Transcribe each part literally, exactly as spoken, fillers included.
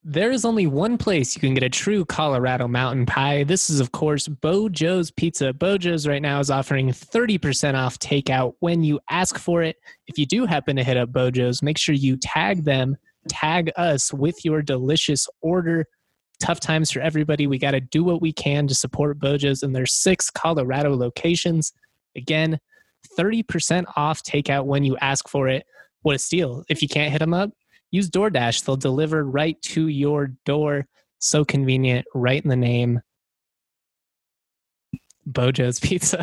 There is only one place you can get a true Colorado mountain pie. This is, of course, Bojo's Pizza. Bojo's right now is offering thirty percent off takeout when you ask for it. If you do happen to hit up Bojo's, make sure you tag them, tag us with your delicious order. Tough times for everybody. We got to do what we can to support Bojo's in their six Colorado locations. Again, thirty percent off takeout when you ask for it. What a steal. If you can't hit them up, use DoorDash. They'll deliver right to your door. So convenient, right in the name. Bojo's Pizza.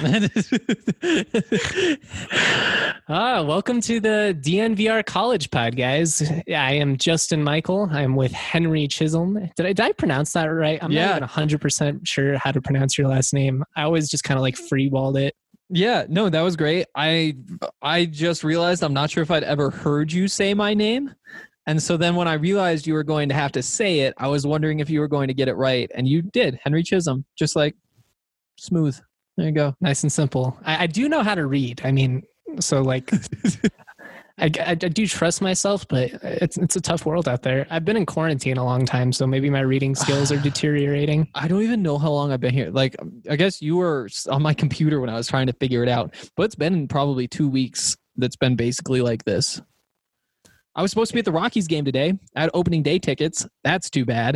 ah, welcome to the D N V R College Pod, guys. I am Justin Michael. I'm with Henry Chisholm. Did I, did I pronounce that right? I'm yeah. not even one hundred percent sure how to pronounce your last name. I always just kind of like freeballed it. Yeah, no, that was great. I I just realized I'm not sure if I'd ever heard you say my name. And so then when I realized you were going to have to say it, I was wondering if you were going to get it right. And you did. Henry Chisholm. Just like smooth. There you go. Nice and simple. I, I do know how to read. I mean, so like, I, I, I do trust myself, but it's it's a tough world out there. I've been in quarantine a long time, so maybe my reading skills are deteriorating. I don't even know how long I've been here. Like, I guess you were on my computer when I was trying to figure it out, but it's been probably two weeks that's been basically like this. I was supposed to be at the Rockies game today. I had opening day tickets. That's too bad.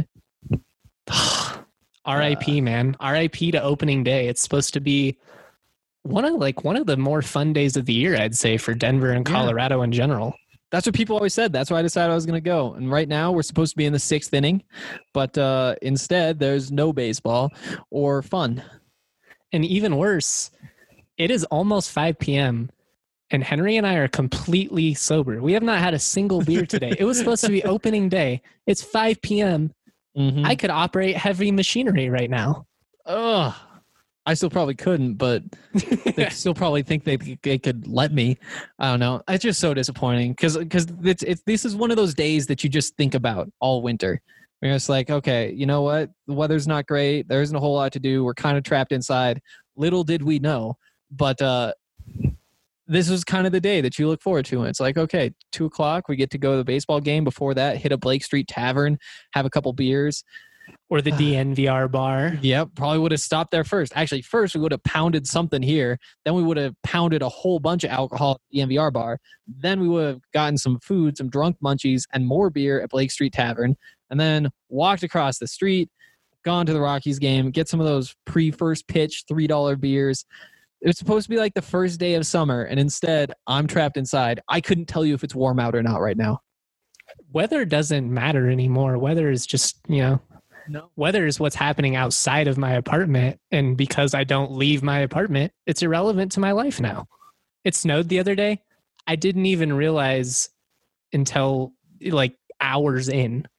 R I P, uh, man. R I P to opening day. It's supposed to be one of like one of the more fun days of the year, I'd say, for Denver and Colorado yeah. in general. That's what people always said. That's why I decided I was going to go. And right now we're supposed to be in the sixth inning, but uh, instead there's no baseball or fun. And even worse, it is almost five p.m. and Henry and I are completely sober. We have not had a single beer today. It was supposed to be opening day. It's five p.m. Mm-hmm. I could operate heavy machinery right now. Ugh. I still probably couldn't, but they still probably think they they could let me. I don't know. It's just so disappointing because because it's it's this is one of those days that you just think about all winter. Where it's like, okay, you know what? The weather's not great. There isn't a whole lot to do. We're kind of trapped inside. Little did we know, but uh, this was kind of the day that you look forward to. And it's like, okay, two o'clock, we get to go to the baseball game. Before that, hit a Blake Street Tavern, have a couple beers. Or the D N V R bar. Yep, probably would have stopped there first. Actually, first we would have pounded something here. Then we would have pounded a whole bunch of alcohol at the D N V R bar. Then we would have gotten some food, some drunk munchies, and more beer at Blake Street Tavern. And then walked across the street, gone to the Rockies game, get some of those pre-first pitch three dollar beers. It was supposed to be like the first day of summer, and instead, I'm trapped inside. I couldn't tell you if it's warm out or not right now. Weather doesn't matter anymore. Weather is just, you know... No. Weather is what's happening outside of my apartment. And because I don't leave my apartment, it's irrelevant to my life now. It snowed the other day. I didn't even realize until like hours in.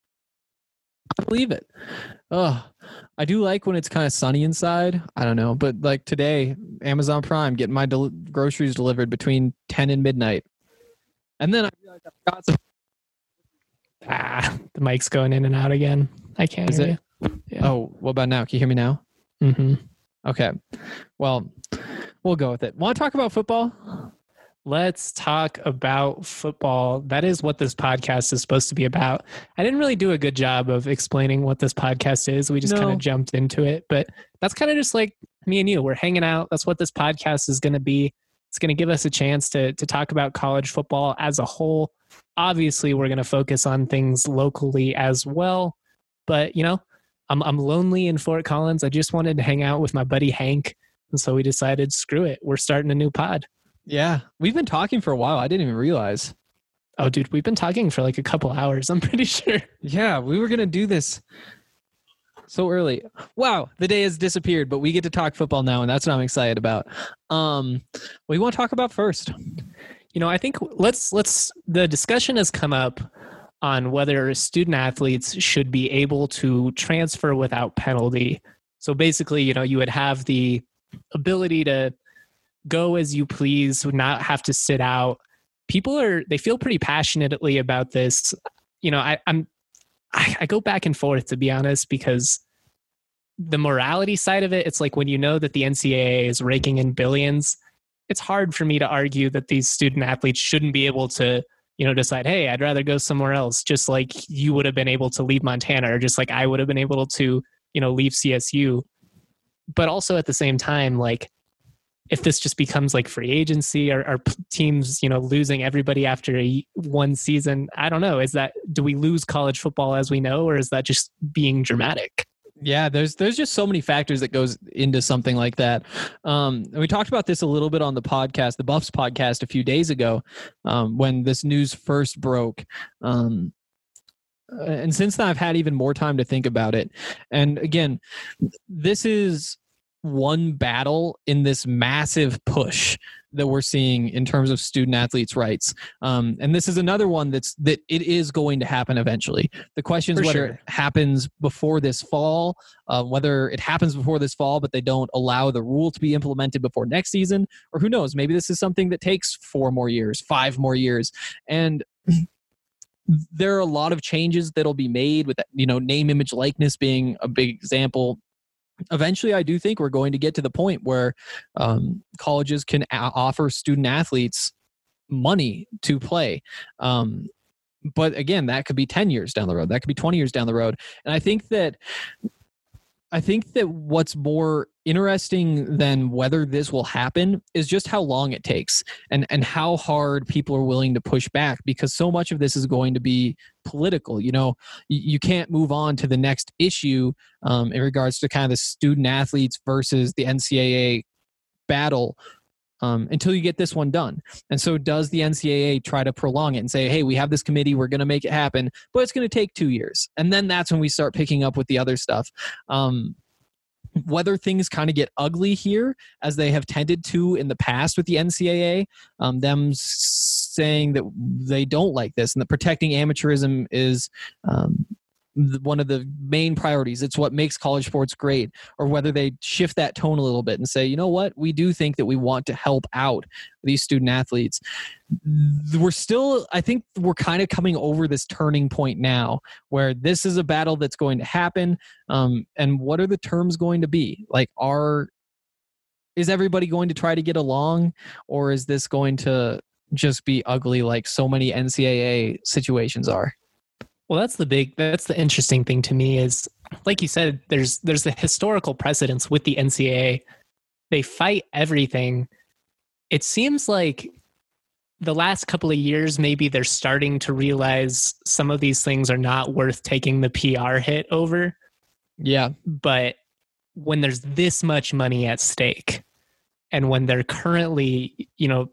I believe it. Oh, I do like when it's kind of sunny inside. I don't know. But like today, Amazon Prime, getting my del- groceries delivered between ten and midnight. And then I realized I forgot some. Ah, the mic's going in and out again. I can't Is hear it? you. Yeah. Oh, what about now? Can you hear me now? Mm-hmm. Okay. Well, we'll go with it. Want to talk about football? Let's talk about football. That is what this podcast is supposed to be about. I didn't really do a good job of explaining what this podcast is. We just no. kind of jumped into it. But that's kind of just like me and you. We're hanging out. That's what this podcast is going to be. It's going to give us a chance to to talk about college football as a whole. Obviously, we're going to focus on things locally as well. But, you know, I'm I'm lonely in Fort Collins. I just wanted to hang out with my buddy Hank. And so we decided, screw it. We're starting a new pod. Yeah. We've been talking for a while. I didn't even realize. Oh, dude, we've been talking for like a couple hours. I'm pretty sure. Yeah, we were going to do this so early. Wow, the day has disappeared, but we get to talk football now, and that's what I'm excited about. Um, what do you want to talk about first? You know, I think let's let's the discussion has come up on whether student athletes should be able to transfer without penalty. So basically, you know, you would have the ability to go as you please, would not have to sit out. People are they feel pretty passionately about this. You know, I, I'm I, I go back and forth, to be honest, because the morality side of it, it's like when you know that the N C double A is raking in billions, it's hard for me to argue that these student athletes shouldn't be able to you know, decide, hey, I'd rather go somewhere else, just like you would have been able to leave Montana, or just like I would have been able to, you know, leave C S U. But also at the same time, like, if this just becomes like free agency, or, or teams, you know, losing everybody after a, one season, I don't know. Is that, do we lose college football as we know, or is that just being dramatic? Yeah, there's there's just so many factors that goes into something like that. Um, and we talked about this a little bit on the podcast, the Buffs podcast, a few days ago, um, when this news first broke. Um, and since then, I've had even more time to think about it. And again, this is one battle in this massive push that we're seeing in terms of student athletes' rights. Um, and this is another one that's that it is going to happen eventually. The question is For whether sure. it happens before this fall, uh, whether it happens before this fall, but they don't allow the rule to be implemented before next season, or who knows, maybe this is something that takes four more years, five more years. And there are a lot of changes that'll be made with, you know, name, image, likeness being a big example. Eventually, I do think we're going to get to the point where um, colleges can a- offer student athletes money to play. Um, but again, that could be ten years down the road. That could be twenty years down the road. And I think that I think that what's more interesting than whether this will happen is just how long it takes, and, and how hard people are willing to push back, because so much of this is going to be political. You know, you, you can't move on to the next issue um, in regards to kind of the student athletes versus the N C double A battle um, until you get this one done. And so does the N C double A try to prolong it and say, hey, we have this committee, we're going to make it happen, but it's going to take two years. And then that's when we start picking up with the other stuff. Um, whether things kind of get ugly here, as they have tended to in the past with the N C double A, um, them saying that they don't like this and that protecting amateurism is um, one of the main priorities. It's what makes college sports great, or whether they shift that tone a little bit and say, you know what, we do think that we want to help out these student athletes. We're still, I think we're kind of coming over this turning point now where this is a battle that's going to happen. Um, and what are the terms going to be? Like, are, is everybody going to try to get along, or is this going to just be ugly like so many N C double A situations are? Well, that's the big, that's the interesting thing to me is, like you said, there's there's the historical precedence with the N C double A. They fight everything. It seems like the last couple of years, maybe they're starting to realize some of these things are not worth taking the P R hit over. Yeah. But when there's this much money at stake, and when they're currently, you know,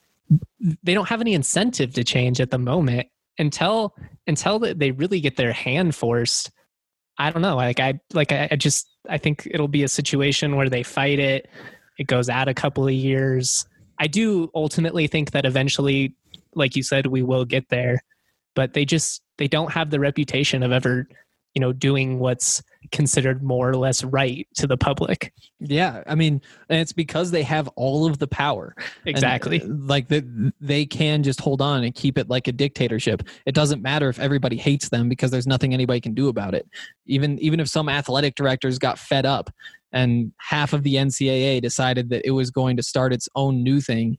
they don't have any incentive to change at the moment, until until they really get their hand forced. I don't know. Like I like I, I just I think it'll be a situation where they fight it. It goes out a couple of years. I do ultimately think that eventually, like you said, we will get there. But they just they don't have the reputation of ever, you know, doing what's considered more or less right to the public. Yeah, I mean, and it's because they have all of the power. Exactly. And, like the, they can just hold on and keep it like a dictatorship. It doesn't matter if everybody hates them, because there's nothing anybody can do about it. Even even if some athletic directors got fed up and half of the N C double A decided that it was going to start its own new thing,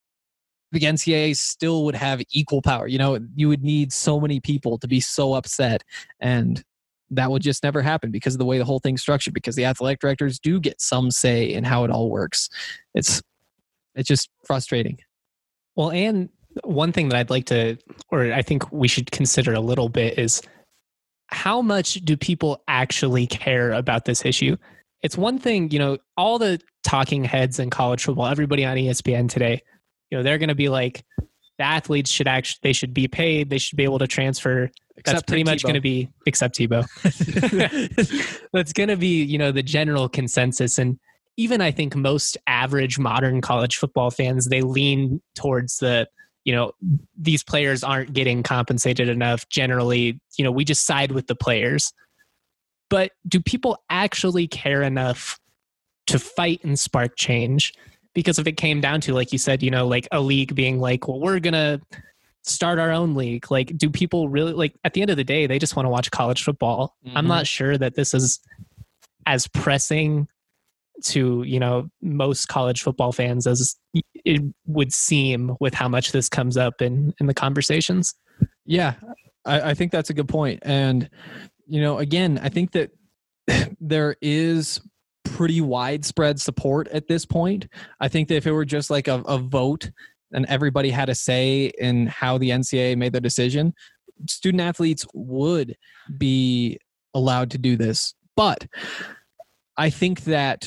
the N C double A still would have equal power. You know, you would need so many people to be so upset, and that would just never happen because of the way the whole thing's structured, because the athletic directors do get some say in how it all works. It's it's just frustrating. Well, and one thing that I'd like to, or I think we should consider a little bit, is how much do people actually care about this issue? It's one thing, you know, all the talking heads in college football, everybody on E S P N today, you know, they're going to be like, the athletes should actually, they should be paid. They should be able to transfer. Except That's pretty much going to be, except Tebow. That's going to be, you know, the general consensus. And even I think most average modern college football fans, they lean towards the, you know, these players aren't getting compensated enough. Generally, you know, we just side with the players. But do people actually care enough to fight and spark change? Because if it came down to, like you said, you know, like a league being like, well, we're going to start our own league. Like, do people really, like, at the end of the day, they just want to watch college football. Mm-hmm. I'm not sure that this is as pressing to, you know, most college football fans as it would seem with how much this comes up in, in the conversations. Yeah, I, I think that's a good point. And, you know, again, I think that there is pretty widespread support at this point. I think that if it were just like a, a vote and everybody had a say in how the N C double A made their decision, student athletes would be allowed to do this. But I think that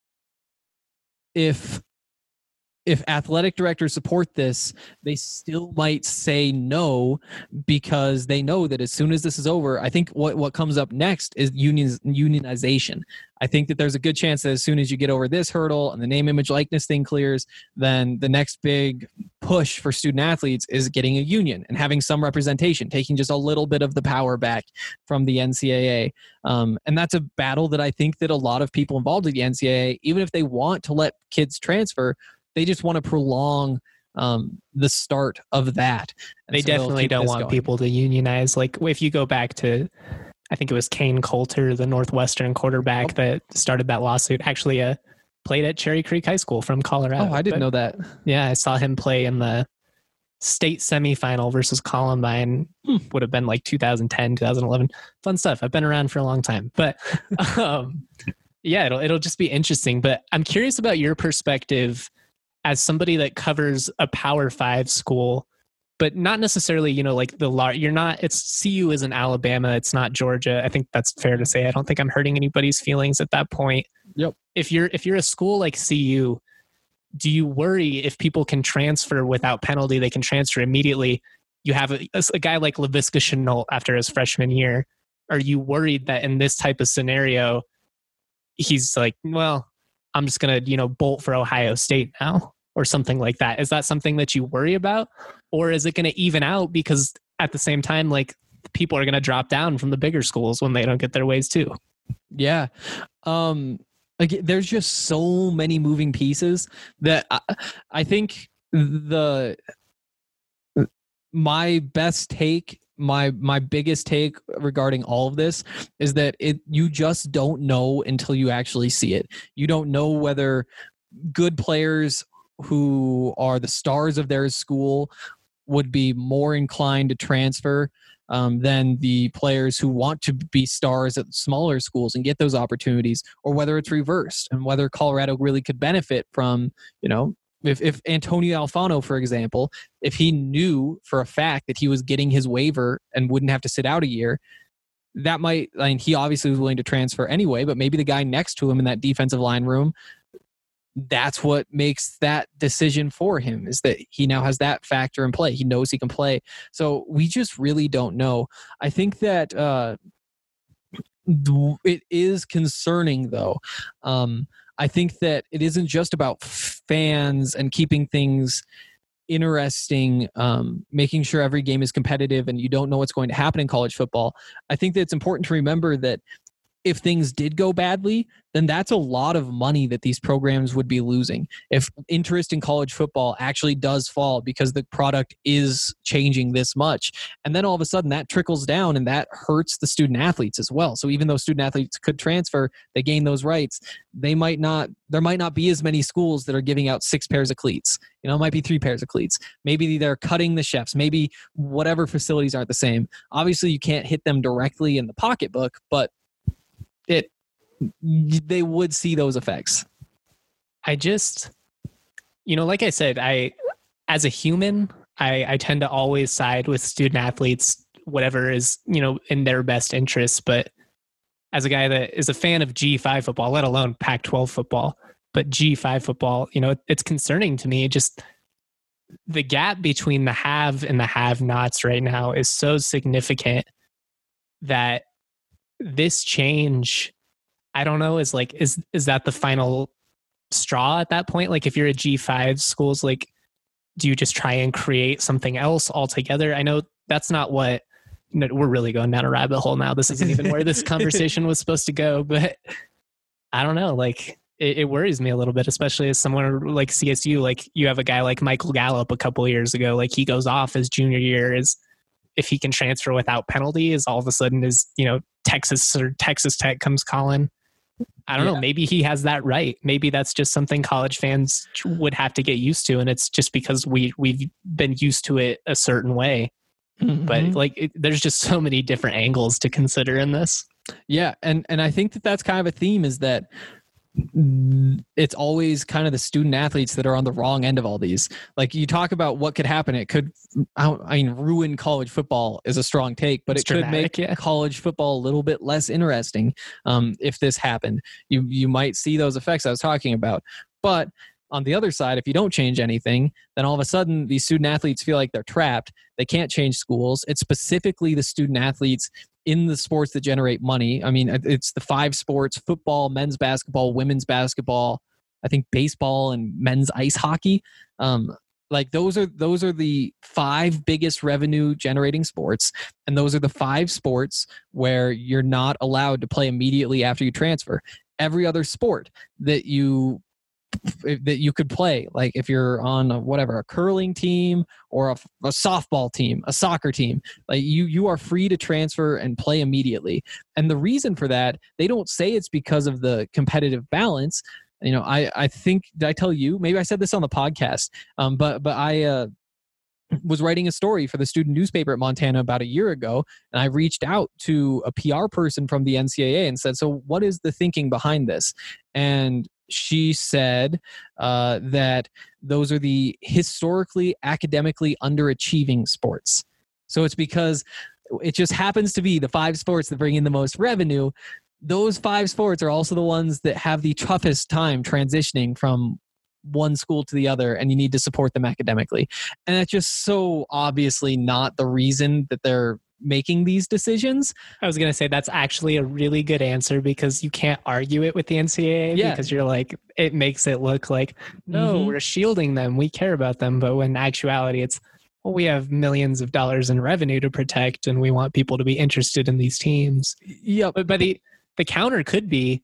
if if athletic directors support this, they still might say no, because they know that as soon as this is over, I think what, what comes up next is unions, unionization. I think that there's a good chance that as soon as you get over this hurdle and the name, image, likeness thing clears, then the next big push for student athletes is getting a union and having some representation, taking just a little bit of the power back from the N C double A. Um, and that's a battle that I think that a lot of people involved in the N C double A, even if they want to let kids transfer, they just want to prolong um, the start of that. And they so definitely don't want going. people to unionize. Like if you go back to, I think it was Kane Coulter, the Northwestern quarterback oh. that started that lawsuit, actually uh, played at Cherry Creek High School from Colorado. Oh, I didn't but, know that. Yeah, I saw him play in the state semifinal versus Columbine. Hmm. Would have been like two thousand ten, two thousand eleven. Fun stuff. I've been around for a long time. But um, yeah, it'll it'll just be interesting. But I'm curious about your perspective as somebody that covers a Power Five school, but not necessarily, you know, like the law. You're not, it's C U isn't Alabama. It's not Georgia. I think that's fair to say. I don't think I'm hurting anybody's feelings at that point. Yep. If you're, if you're a school like C U, do you worry if people can transfer without penalty, they can transfer immediately? You have a, a guy like Laviska Shenault after his freshman year. Are you worried that in this type of scenario, he's like, well, I'm just going to, you know, bolt for Ohio State now? Or something like that. Is that something that you worry about? Or is it going to even out because at the same time, like people are going to drop down from the bigger schools when they don't get their ways too? Yeah. Um, like there's just so many moving pieces that I, I think the, my best take, my, my biggest take regarding all of this is that it, you just don't know until you actually see it. You don't know whether good players who are the stars of their school would be more inclined to transfer um, than the players who want to be stars at smaller schools and get those opportunities, or whether it's reversed, and whether Colorado really could benefit from, you know, if, if Antonio Alfano, for example, if he knew for a fact that he was getting his waiver and wouldn't have to sit out a year, that might, I mean, he obviously was willing to transfer anyway, but maybe the guy next to him in that defensive line room, that's what makes that decision for him, is that he now has that factor in play. He knows he can play. So we just really don't know. I think that uh, it is concerning, though. Um, I think that it isn't just about fans and keeping things interesting, um, making sure every game is competitive and you don't know what's going to happen in college football. I think that it's important to remember that if things did go badly, then that's a lot of money that these programs would be losing. If interest in college football actually does fall because the product is changing this much, and then all of a sudden that trickles down and that hurts the student athletes as well. So even though student athletes could transfer, they gain those rights, they might not, there might not be as many schools that are giving out six pairs of cleats. You know, it might be three pairs of cleats. Maybe they're cutting the chefs. Maybe whatever facilities aren't the same. Obviously you can't hit them directly in the pocketbook, but it they would see those effects. I just, you know, like I said, I, as a human, I, I tend to always side with student athletes, whatever is, you know, in their best interests. But as a guy that is a fan of G five football, let alone Pac twelve football, but G five football, you know, it, it's concerning to me. Just the gap between the have and the have-nots right now is so significant that this change, I don't know, is like, is is that the final straw at that point? Like if you're a G five schools, like, do you just try and create something else altogether? I know that's not what, no, we're really going down a rabbit hole now. This isn't even where this conversation was supposed to go, but I don't know, like it, it worries me a little bit, especially as someone like C S U, like you have a guy like Michael Gallup a couple of years ago, like he goes off his junior year, is if he can transfer without penalty, is all of a sudden is, you know, Texas or Texas Tech comes calling. I don't Yeah. know. Maybe he has that right. Maybe that's just something college fans would have to get used to, and it's just because we we've been used to it a certain way. Mhm. But like, it, there's just so many different angles to consider in this. Yeah, and and I think that that's kind of a theme, is that it's always kind of the student athletes that are on the wrong end of all these. Like, you talk about what could happen. It could, I mean, ruin college football is a strong take, but It's it could dramatic, make yeah. college football a little bit less interesting um, if this happened. You you might see those effects I was talking about. But on the other side, if you don't change anything, then all of a sudden these student athletes feel like they're trapped. They can't change schools. It's specifically the student athletes in the sports that generate money. I mean, it's the five sports: football, men's basketball, women's basketball, I think baseball, and men's ice hockey. Um, like those are those are the five biggest revenue generating sports, and those are the five sports where you're not allowed to play immediately after you transfer. Every other sport that you that you could play, like if you're on a, whatever, a curling team or a, a softball team, a soccer team, like you you are free to transfer and play immediately. And the reason for that, they don't say it's because of the competitive balance. You know, I I think, did I tell you? Maybe I said this on the podcast, um, but but I uh, was writing a story for the student newspaper at Montana about a year ago, and I reached out to a P R person from the N C double A and said, "So what is the thinking behind this?" And she said uh, that those are the historically academically underachieving sports. So it's because it just happens to be the five sports that bring in the most revenue. Those five sports are also the ones that have the toughest time transitioning from one school to the other, and you need to support them academically. And that's just so obviously not the reason that they're making these decisions. I was going to say that's actually a really good answer, because you can't argue it with the N C double A, Yeah. because you're like, it makes it look like, no, Mhm. we're shielding them, we care about them. But when in actuality, it's, well, we have millions of dollars in revenue to protect, and we want people to be interested in these teams. Yep. But, but the, the counter could be,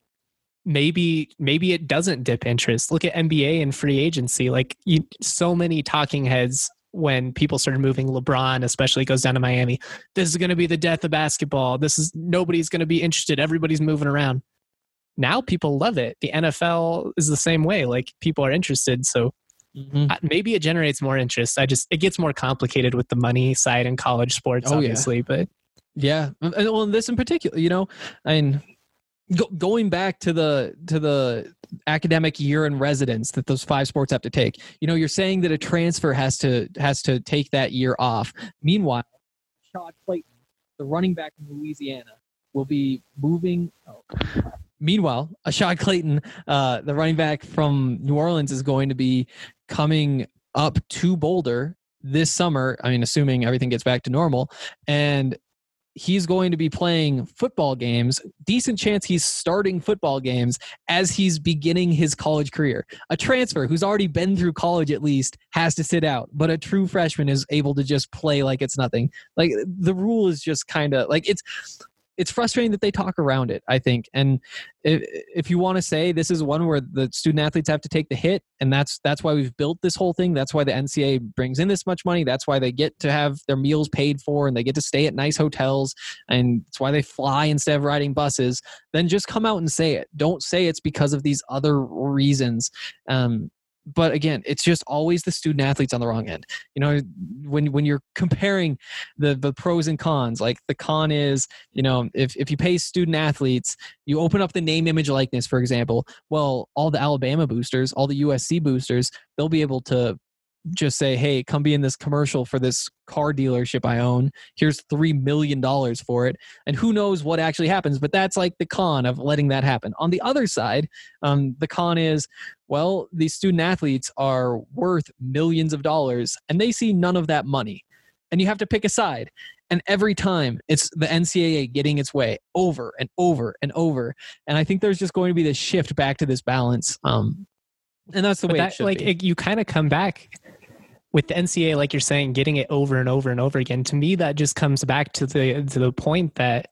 maybe maybe it doesn't dip interest. Look at N B A and free agency. Like, you, so many talking heads when people started moving. LeBron especially goes down to Miami. This is going to be the death of basketball. This is, nobody's going to be interested. Everybody's moving around. Now people love it. The N F L is the same way. Like, people are interested. So Mhm. uh, maybe it generates more interest. I just, it gets more complicated with the money side in college sports, Oh, yeah. obviously. But Yeah, and well, this in particular, you know, I mean, go, going back to the to the academic year in residence that those five sports have to take. You know, you're saying that a transfer has to has to take that year off. Meanwhile, Rashad Clayton, the running back from Louisiana, will be moving. Oh. Meanwhile, Rashad Clayton, uh, the running back from New Orleans, is going to be coming up to Boulder this summer. I mean, assuming everything gets back to normal, and he's going to be playing football games. Decent chance he's starting football games as he's beginning his college career. A transfer who's already been through college at least has to sit out, but a true freshman is able to just play like it's nothing. Like, the rule is just kind of like, it's it's frustrating that they talk around it, I think. And if, if you want to say this is one where the student athletes have to take the hit, and that's that's why we've built this whole thing. That's why the N C double A brings in this much money. That's why they get to have their meals paid for, and they get to stay at nice hotels, and it's why they fly instead of riding buses. Then just come out and say it. Don't say it's because of these other reasons. Um, But again, it's just always the student athletes on the wrong end. You know, when when you're comparing the the pros and cons, like the con is, you know, if, if you pay student athletes, you open up the name, image, likeness, for example. Well, all the Alabama boosters, all the U S C boosters, they'll be able to just say, hey, come be in this commercial for this car dealership I own. Here's three million dollars for it. And who knows what actually happens, but that's like the con of letting that happen. On the other side, um, the con is, well, these student athletes are worth millions of dollars and they see none of that money. And you have to pick a side. And every time it's the N C double A getting its way over and over and over. And I think there's just going to be this shift back to this balance. Um, and that's the but way that, it should like, be. it, you kind of come back with the N C double A, like you're saying, getting it over and over and over again. To me, that just comes back to the to the point that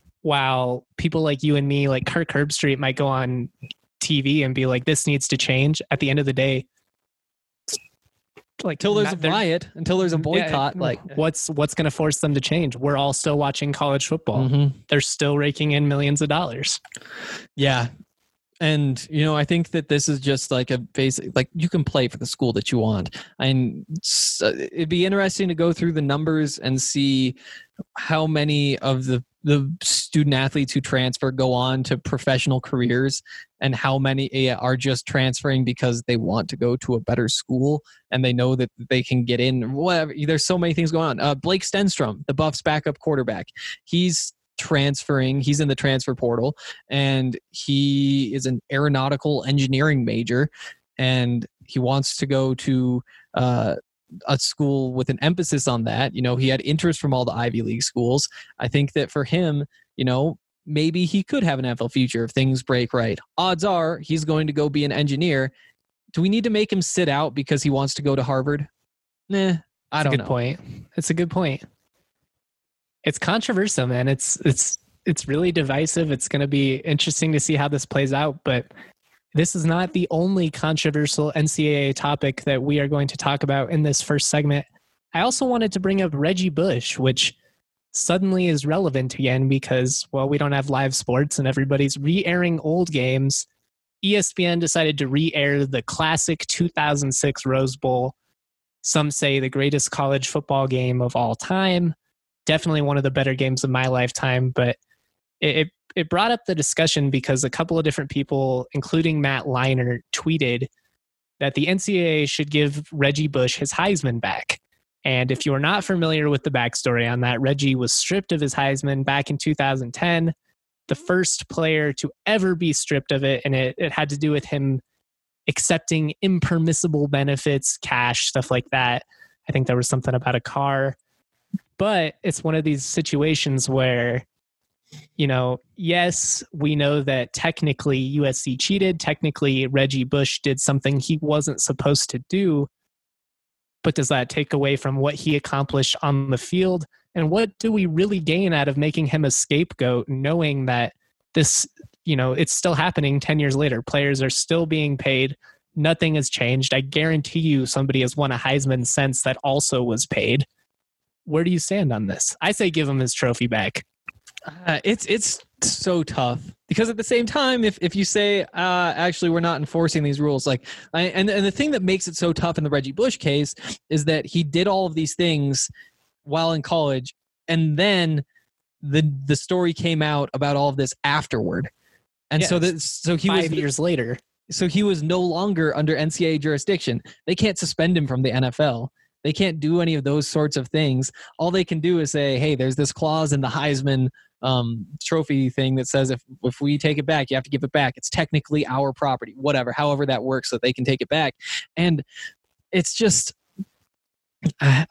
while people like you and me, like Kirk Herbstreit, might go on T V and be like, this needs to change, at the end of the day, like until there's not- a they're- riot, until there's a boycott. Yeah, like what's what's going to force them to change? We're all still watching college football. Mhm. They're still raking in millions of dollars. Yeah. And, you know, I think that this is just like a basic, like you can play for the school that you want. And s- it'd be interesting to go through the numbers and see how many of the, the student athletes who transfer go on to professional careers and how many eh, are just transferring because they want to go to a better school and they know that they can get in. Whatever. There's so many things going on. Uh, Blake Stenstrom, the Buffs backup quarterback, he's transferring. He's in the transfer portal, and he is an aeronautical engineering major, and he wants to go to uh, a school with an emphasis on that. You know, he had interest from all the Ivy League schools. I think that for him, you know, maybe he could have an N F L future if things break right. Odds are he's going to go be an engineer. Do we need to make him sit out because he wants to go to Harvard? Nah, I It's don't a good know. point. It's a good point. It's controversial, man. It's it's it's really divisive. It's going to be interesting to see how this plays out, but this is not the only controversial N C double A topic that we are going to talk about in this first segment. I also wanted to bring up Reggie Bush, which suddenly is relevant again because, well, we don't have live sports and everybody's re-airing old games. E S P N decided to re-air the classic two thousand six Rose Bowl. Some say the greatest college football game of all time. Definitely one of the better games of my lifetime, but it, it it brought up the discussion because a couple of different people, including Matt Leinart, tweeted that the N C double A should give Reggie Bush his Heisman back. And if you are not familiar with the backstory on that, Reggie was stripped of his Heisman back in two thousand ten, the first player to ever be stripped of it, and it, it had to do with him accepting impermissible benefits, cash, stuff like that. I think there was something about a car. But it's one of these situations where, you know, yes, we know that technically U S C cheated. Technically, Reggie Bush did something he wasn't supposed to do. But does that take away from what he accomplished on the field? And what do we really gain out of making him a scapegoat, knowing that this, you know, it's still happening ten years later? Players are still being paid. Nothing has changed. I guarantee you somebody has won a Heisman since that also was paid. Where do you stand on this? I say give him his trophy back. Uh, it's it's so tough because at the same time, if if you say uh, actually we're not enforcing these rules, like I, and and the thing that makes it so tough in the Reggie Bush case is that he did all of these things while in college, and then the the story came out about all of this afterward, and Yes. so that so he Five was years later. so he was no longer under N C double A jurisdiction. They can't suspend him from the N F L. They can't do any of those sorts of things. All they can do is say, hey, there's this clause in the Heisman um, trophy thing that says if, if we take it back, you have to give it back. It's technically our property, whatever, however that works, so they can take it back. And it's just, uh,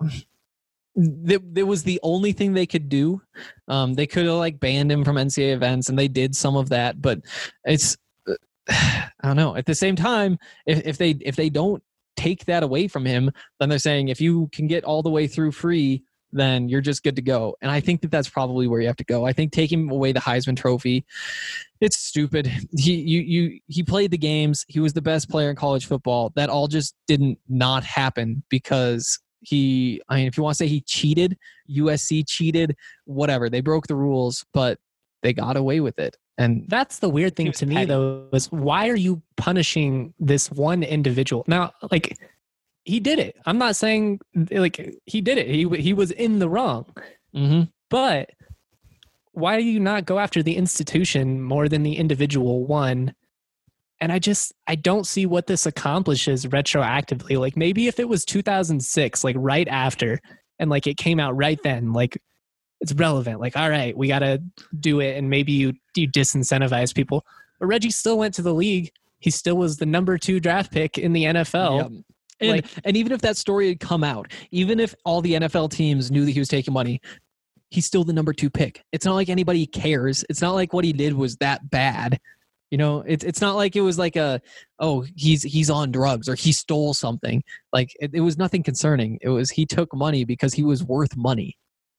that, that was the only thing they could do. Um, they could have like banned him from N C double A events, and they did some of that, but it's, uh, I don't know. At the same time, if, if they if they don't take that away from him, then they're saying if you can get all the way through free, then you're just good to go. And I think that that's probably where you have to go. I think taking away the Heisman Trophy, it's stupid. He you you he played the games. He was the best player in college football. That all just didn't not happen because he, I mean, if you want to say he cheated, U S C cheated, whatever. They broke the rules, but they got away with it. And That's the weird He thing was to me, petty. though, is why are you punishing this one individual? Now, like, he did it. I'm not saying, like, he did it. He he was in the wrong. mm-hmm. But why do you not go after the institution more than the individual one? And I just, I don't see what this accomplishes retroactively. Like, maybe if it was two thousand six, like, right after, and, like, it came out right then, like, it's relevant. Like, all right, we got to do it, and maybe you you disincentivize people. But Reggie still went to the league. He still was the number two draft pick in the N F L. Yep. And, Like- and even if that story had come out, even if all the N F L teams knew that he was taking money, he's still the number two pick. It's not like anybody cares. It's not like what he did was that bad. You know, it's it's not like it was like a, oh, he's he's on drugs or he stole something. Like it, it was nothing concerning. It was he took money because he was worth money.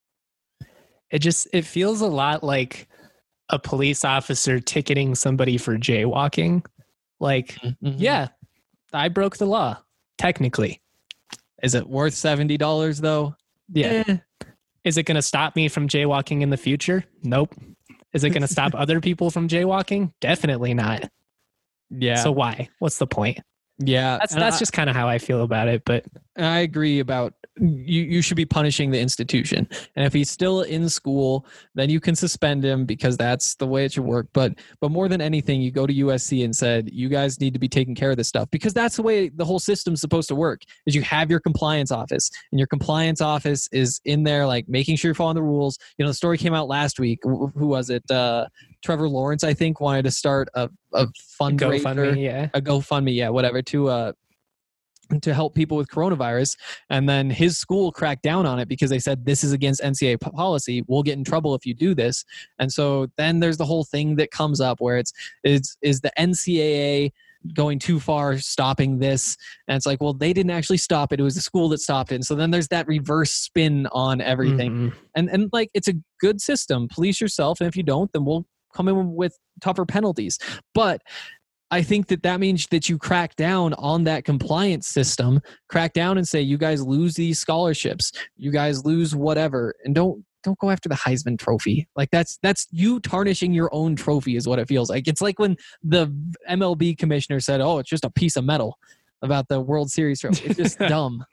It just, it feels a lot like a police officer ticketing somebody for jaywalking. Like, Mm-hmm. yeah, I broke the law, technically. Is it worth seventy dollars though? Yeah. Eh. Is it going to stop me from jaywalking in the future? Nope. Is it going to stop other people from jaywalking? Definitely not. Yeah. So why? What's the point? Yeah. That's and that's I, just kind of how I feel about it. But I agree about you, you should be punishing the institution. And if he's still in school, then you can suspend him because that's the way it should work. But but more than anything, you go to U S C and said, you guys need to be taking care of this stuff because that's the way the whole system's supposed to work is you have your compliance office and your compliance office is in there like making sure you're following the rules. You know, the story came out last week. Who was it? Uh, Trevor Lawrence, I think, wanted to start a, a fundraiser, GoFundMe, yeah. a GoFundMe, yeah, whatever, to uh, to help people with coronavirus. And then his school cracked down on it because they said this is against N C A A policy. We'll get in trouble if you do this. And so then there's the whole thing that comes up where it's is is the N C A A going too far stopping this, and it's like, well, they didn't actually stop it, it was the school that stopped it. And so then there's that reverse spin on everything. Mm-hmm. and and like it's a good system. Police yourself, and if you don't, then we'll come in with tougher penalties. But I think that that means that you crack down on that compliance system, crack down and say, you guys lose these scholarships, you guys lose whatever, and don't don't go after the Heisman Trophy. Like that's that's you tarnishing your own trophy is what it feels like. It's like when the M L B commissioner said, oh, it's just a piece of metal about the World Series trophy. It's just dumb.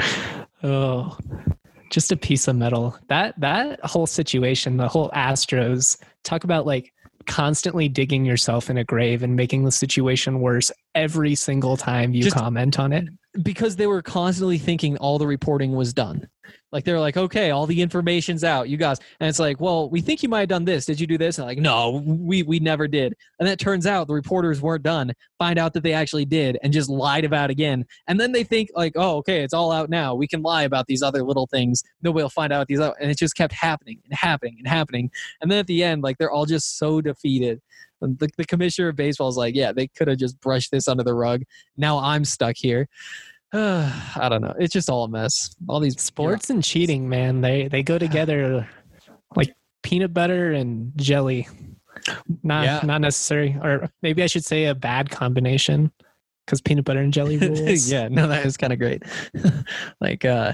Oh, just a piece of metal. That that whole situation, the whole Astros, talk about like constantly digging yourself in a grave and making the situation worse every single time you just comment on it. Because they were constantly thinking all the reporting was done. Like they're like, okay, all the information's out, you guys. And it's like, well, we think you might have done this. Did you do this? And like, no, we we never did. And that turns out the reporters weren't done. Find out that they actually did and just lied about it again. And then they think like, oh, okay, it's all out now. We can lie about these other little things. Nobody will find out these other. And it just kept happening and happening and happening. And then at the end, like they're all just so defeated. The, the commissioner of baseball is like, yeah, they could have just brushed this under the rug. Now I'm stuck here. Uh, I don't know. It's just all a mess. All these sports and cheating, man. They they go together like peanut butter and jelly. Not yeah. not necessary, or maybe I should say a bad combination because peanut butter and jelly rules. Yeah, no, that is kind of great. Like uh,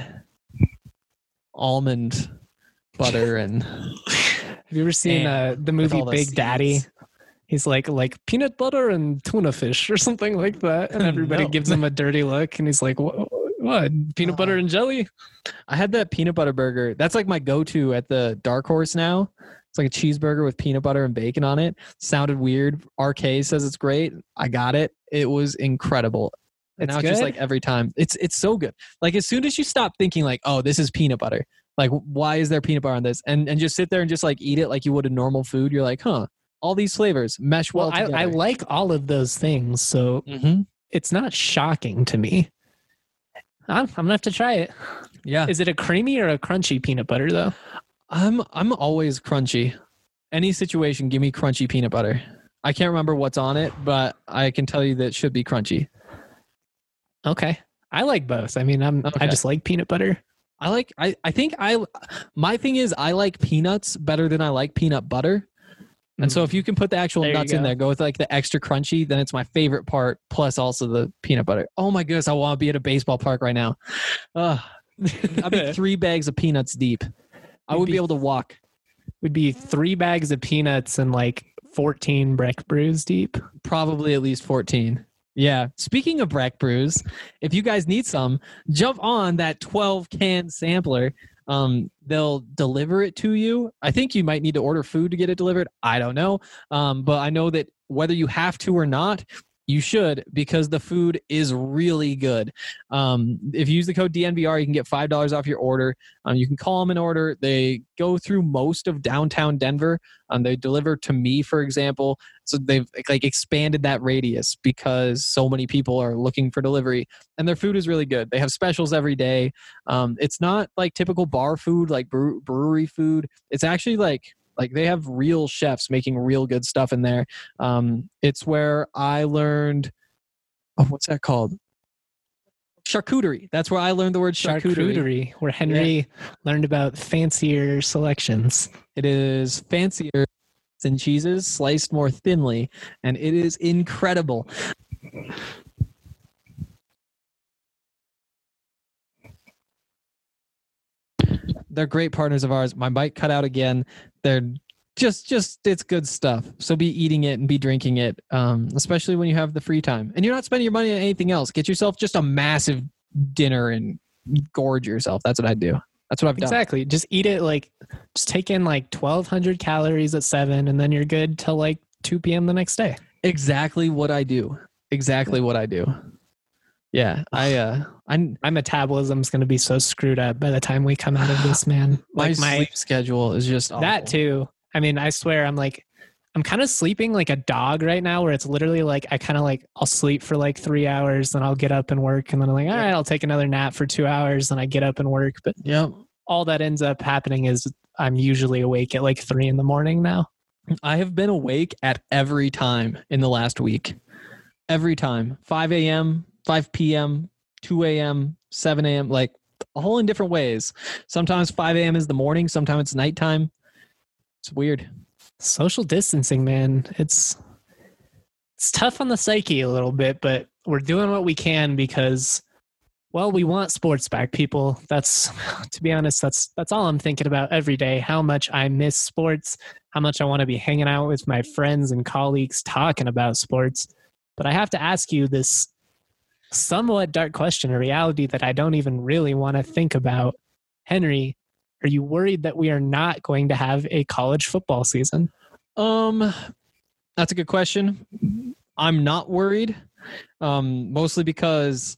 almond butter and. Have you ever seen uh, the movie Big seeds. Daddy? He's like, like peanut butter and tuna fish or something like that. And everybody no. gives him a dirty look. And he's like, what? what? Peanut uh, butter and jelly? I had that peanut butter burger. That's like my go-to at the Dark Horse now. It's like a cheeseburger with peanut butter and bacon on it. Sounded weird. R K says it's great. I got it. It was incredible. And it's now it's just like every time. It's it's so good. Like as soon as you stop thinking like, oh, this is peanut butter. Like, why is there peanut butter on this? And and just sit there and just like eat it like you would a normal food. You're like, huh. All these flavors mesh well, well together. I, I like all of those things, so mm-hmm. it's not shocking to me. I'm, I'm gonna have to try it. Yeah. Is it a creamy or a crunchy peanut butter though? I'm I'm always crunchy. Any situation, give me crunchy peanut butter. I can't remember what's on it, but I can tell you that it should be crunchy. Okay, I like both. I mean, I'm okay. I just like peanut butter. I like. I I think I. My thing is, I like peanuts better than I like peanut butter. And so if you can put the actual there nuts in there, go with like the extra crunchy, then it's my favorite part, plus also the peanut butter. Oh my goodness, I want to be at a baseball park right now. Uh, I'd be three bags of peanuts deep. I would be, be able to walk. Would be three bags of peanuts and like fourteen Breck brews deep. Probably at least fourteen. Yeah. Speaking of Breck brews, if you guys need some, jump on that twelve can sampler. Um, they'll deliver it to you. I think you might need to order food to get it delivered. I don't know. Um, but I know that whether you have to or not, you should, because the food is really good. Um, if you use the code D N V R, you can get five dollars off your order. Um, you can call them an order. They go through most of downtown Denver. Um, they deliver to me, for example. So they've like expanded that radius because so many people are looking for delivery, and their food is really good. They have specials every day. Um, it's not like typical bar food, like brew- brewery food. It's actually like Like they have real chefs making real good stuff in there. Um, it's where I learned, oh, what's that called? Charcuterie. That's where I learned the word charcuterie. Charcuterie, where Henry yeah. learned about fancier selections. It is fancier than cheeses, sliced more thinly, and it is incredible. They're great partners of ours. My bike cut out again. They're just, just it's good stuff. So be eating it and be drinking it, um, especially when you have the free time. And you're not spending your money on anything else. Get yourself just a massive dinner and gorge yourself. That's what I do. That's what I've done. Exactly. Just eat it like, just take in like twelve hundred calories at seven, and then you're good till like two p.m. the next day. Exactly what I do. Exactly what I do. Yeah, I, uh, I, my metabolism's going to be so screwed up by the time we come out of this, man. Like my, my sleep schedule is just awful. That too. I mean, I swear, I'm like, I'm kind of sleeping like a dog right now, where it's literally like, I kind of like, I'll sleep for like three hours, then I'll get up and work, and then I'm like, all right, I'll take another nap for two hours, and I get up and work. But yep. all that ends up happening is I'm usually awake at like three in the morning now. I have been awake at every time in the last week. Every time. five a.m., five p.m., two a.m., seven a.m., like all in different ways. Sometimes five a.m. is the morning. Sometimes it's nighttime. It's weird. Social distancing, man. It's it's tough on the psyche a little bit, but we're doing what we can because, well, we want sports back, people. That's, to be honest, that's that's all I'm thinking about every day. How much I miss sports, how much I want to be hanging out with my friends and colleagues talking about sports. But I have to ask you this somewhat dark question, a reality that I don't even really want to think about. Henry, are you worried that we are not going to have a college football season? Um, that's a good question. I'm not worried, um, mostly because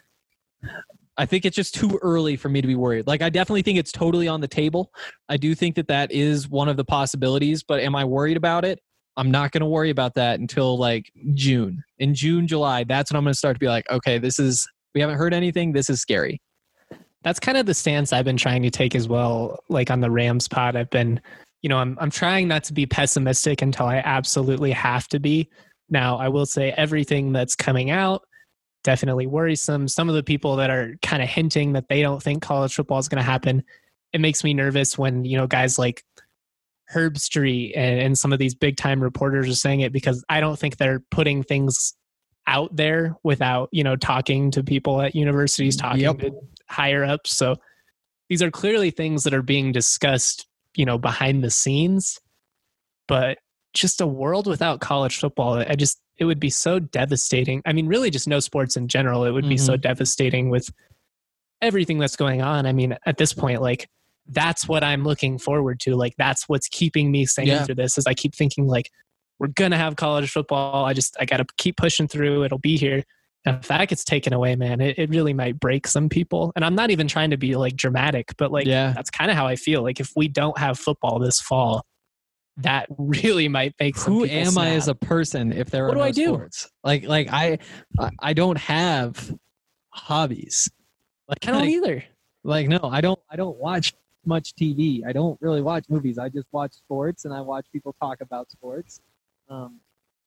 I think it's just too early for me to be worried. Like, I definitely think it's totally on the table. I do think that that is one of the possibilities, but am I worried about it? I'm not going to worry about that until like June. In June, July, that's when I'm going to start to be like, okay, this is, we haven't heard anything. This is scary. That's kind of the stance I've been trying to take as well. Like on the Rams pod, I've been, you know, I'm I'm trying not to be pessimistic until I absolutely have to be. Now, I will say everything that's coming out, definitely worrisome. Some of the people that are kind of hinting that they don't think college football is going to happen, it makes me nervous when, you know, guys like Herb Street and, and some of these big time reporters are saying it, because I don't think they're putting things out there without, you know, talking to people at universities, talking yep. to higher ups. So these are clearly things that are being discussed, you know, behind the scenes. But just a world without college football, I just, it would be so devastating. I mean, really just no sports in general. It would be mm-hmm. so devastating with everything that's going on. I mean, at this point, like, that's what I'm looking forward to. Like, that's what's keeping me sane yeah. through this, is I keep thinking like, we're going to have college football. I just, I got to keep pushing through. It'll be here. And if that gets taken away, man, it, it really might break some people. And I'm not even trying to be like dramatic, but like, yeah. that's kind of how I feel. Like, if we don't have football this fall, that really might make some Who people am snap. I as a person if there are what do no I do? sports? Like, like I, I don't have hobbies. Like, I don't like, either. Like, no, I don't, I don't watch much T V. I don't really watch movies. I just watch sports and I watch people talk about sports. Um,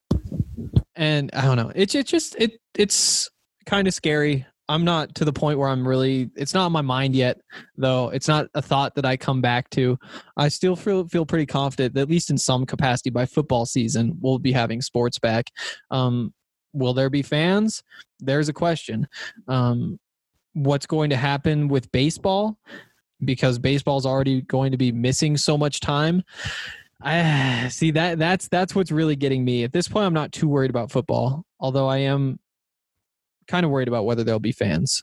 and I don't know. It's it just it it's kind of scary. I'm not to the point where I'm really. It's not on my mind yet, though. It's not a thought that I come back to. I still feel feel pretty confident that at least in some capacity by football season we'll be having sports back. Um, will there be fans? There's a question. Um, what's going to happen with baseball? Because baseball's already going to be missing so much time. I see that that's that's what's really getting me. At this point, I'm not too worried about football, although I am kind of worried about whether there'll be fans.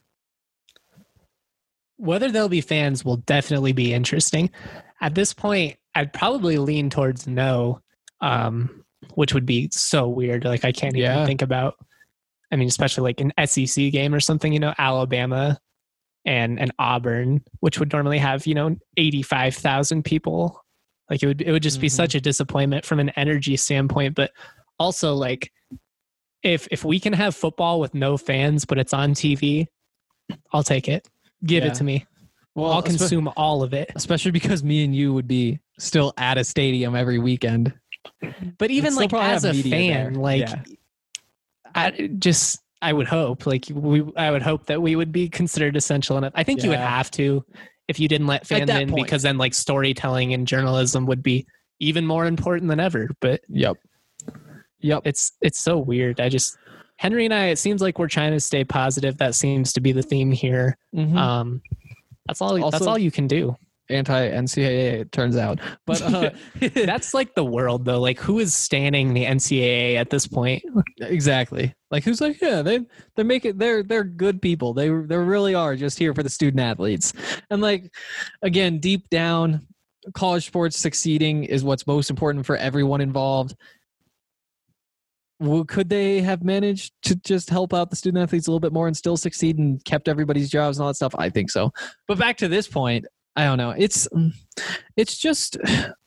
Whether there'll be fans will definitely be interesting. At this point, I'd probably lean towards no, um, which would be so weird. Like, I can't even yeah. think about. I mean, especially like an S E C game or something. You know, Alabama and and Auburn, which would normally have, you know, eighty-five thousand people. Like, it would it would just be mm-hmm. such a disappointment from an energy standpoint. But also, like, if if we can have football with no fans, but it's on T V, I'll take it. Give yeah. it to me. Well, I'll consume all of it. Especially because me and you would be still at a stadium every weekend. But even like as a fan, there. like yeah. I just I would hope like we I would hope that we would be considered essential enough. I think yeah. you would have to. If you didn't let fans in, point. Because then like storytelling and journalism would be even more important than ever. But yep, yep, it's it's so weird. I just Henry and I, it seems like we're trying to stay positive. That seems to be the theme here. Mm-hmm. Um, that's all. Also, that's all you can do. anti-N C double A, it turns out. But uh, that's like the world, though. Like, who is standing the N C double A at this point? Exactly. Like, who's like, yeah, they they make it. They're they're good people. They they really are just here for the student athletes. And like, again, deep down, college sports succeeding is what's most important for everyone involved. Well, could they have managed to just help out the student athletes a little bit more and still succeed and kept everybody's jobs and all that stuff? I think so. But back to this point, I don't know. It's it's just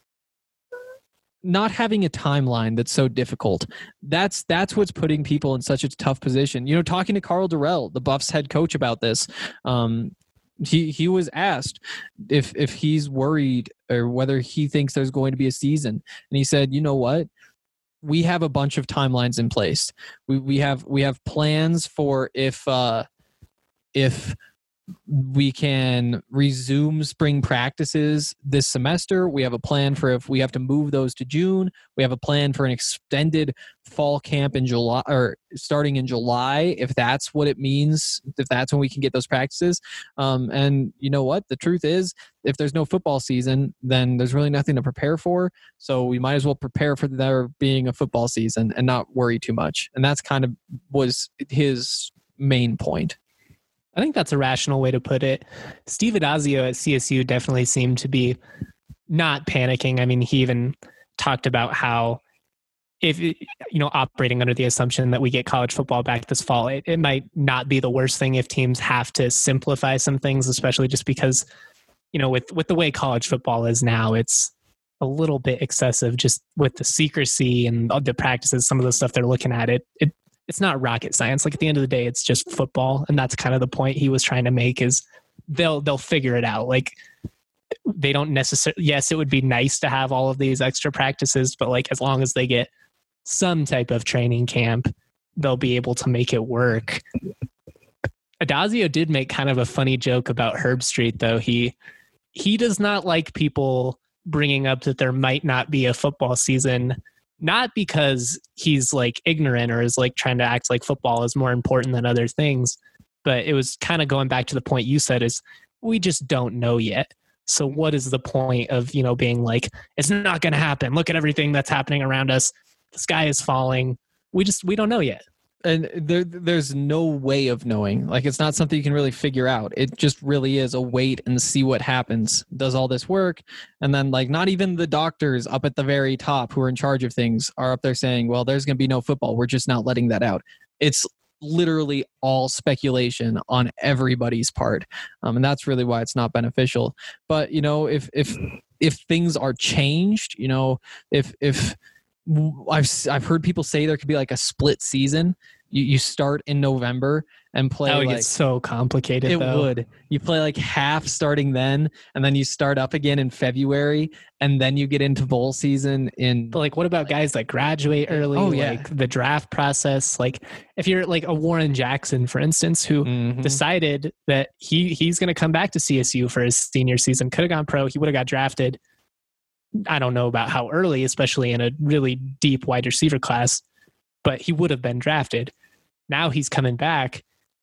not having a timeline that's so difficult. That's that's what's putting people in such a tough position. You know, talking to Karl Dorrell, the Buffs head coach, about this, um, he he was asked if if he's worried or whether he thinks there's going to be a season, and he said, you know what? We have a bunch of timelines in place. We we have we have plans for if uh, if we can resume spring practices this semester. We have a plan for if we have to move those to June. We have a plan for an extended fall camp in July, or starting in July, if that's what it means, if that's when we can get those practices. Um, and you know what? The truth is, if there's no football season, then there's really nothing to prepare for. So we might as well prepare for there being a football season and not worry too much. And that's kind of was his main point. I think that's a rational way to put it. Steve Addazio at C S U definitely seemed to be not panicking. I mean, he even talked about how if, you know, operating under the assumption that we get college football back this fall, it, it might not be the worst thing if teams have to simplify some things, especially just because, you know, with, with the way college football is now, it's a little bit excessive just with the secrecy and the practices, some of the stuff they're looking at. It, it, It's not rocket science. Like, at the end of the day, it's just football. And that's kind of the point he was trying to make, is they'll, they'll figure it out. Like, they don't necessarily, yes, it would be nice to have all of these extra practices, but like, as long as they get some type of training camp, they'll be able to make it work. Addazio did make kind of a funny joke about Herbstreit, though. He, he does not like people bringing up that there might not be a football season, not because he's like ignorant or is like trying to act like football is more important than other things, but it was kind of going back to the point you said, is we just don't know yet. So what is the point of, you know, being like, it's not going to happen. Look at everything that's happening around us. The sky is falling. We just, we don't know yet. And there, there's no way of knowing. Like, it's not something you can really figure out. It just really is a wait and see what happens. Does all this work? And then, like, not even the doctors up at the very top who are in charge of things are up there saying, well, there's going to be no football. We're just not letting that out. It's literally all speculation on everybody's part. Um, and that's really why it's not beneficial. But, you know, if, if, if things are changed, you know, if, if, I've I've heard people say there could be like a split season. You you start in November and play. That would like, get so complicated. It though. would. You play like half starting then, and then you start up again in February, and then you get into bowl season in. But like, what about guys that graduate early? Oh yeah, like the draft process. Like, if you're like a Warren Jackson, for instance, who mm-hmm. decided that he he's going to come back to C S U for his senior season, could have gone pro. He would have got drafted. I don't know about how early, especially in a really deep wide receiver class, but he would have been drafted. Now he's coming back.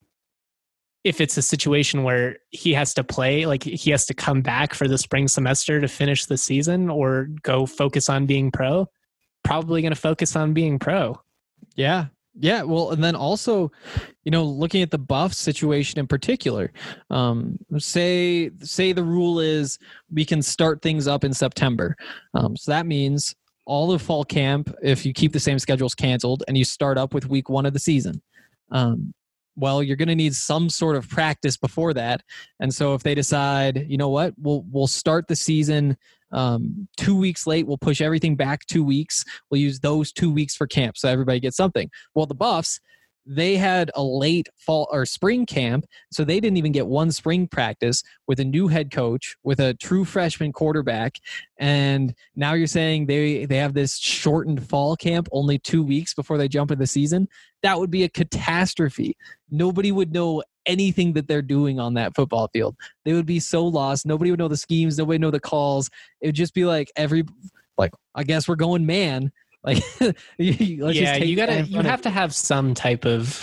If it's a situation where he has to play, like he has to come back for the spring semester to finish the season or go focus on being pro, probably going to focus on being pro. Yeah. Yeah. Well, and then also, you know, looking at the Buffs situation in particular, um, say, say the rule is we can start things up in September. Um, so that means all of fall camp, if you keep the same schedules, canceled, and you start up with week one of the season. Um, well, you're going to need some sort of practice before that. And so if they decide, you know what, we'll, we'll start the season um, two weeks late, we'll push everything back two weeks. We'll use those two weeks for camp. So everybody gets something. Well, the Buffs, they had a late fall or spring camp, so they didn't even get one spring practice with a new head coach, with a true freshman quarterback. And now you're saying they, they have this shortened fall camp only two weeks before they jump in the season. That would be a catastrophe. Nobody would know anything that they're doing on that football field. They would be so lost. Nobody would know the schemes. Nobody would know the calls. It would just be like every, like, I guess we're going man. Like, yeah, you gotta, you have to have some type of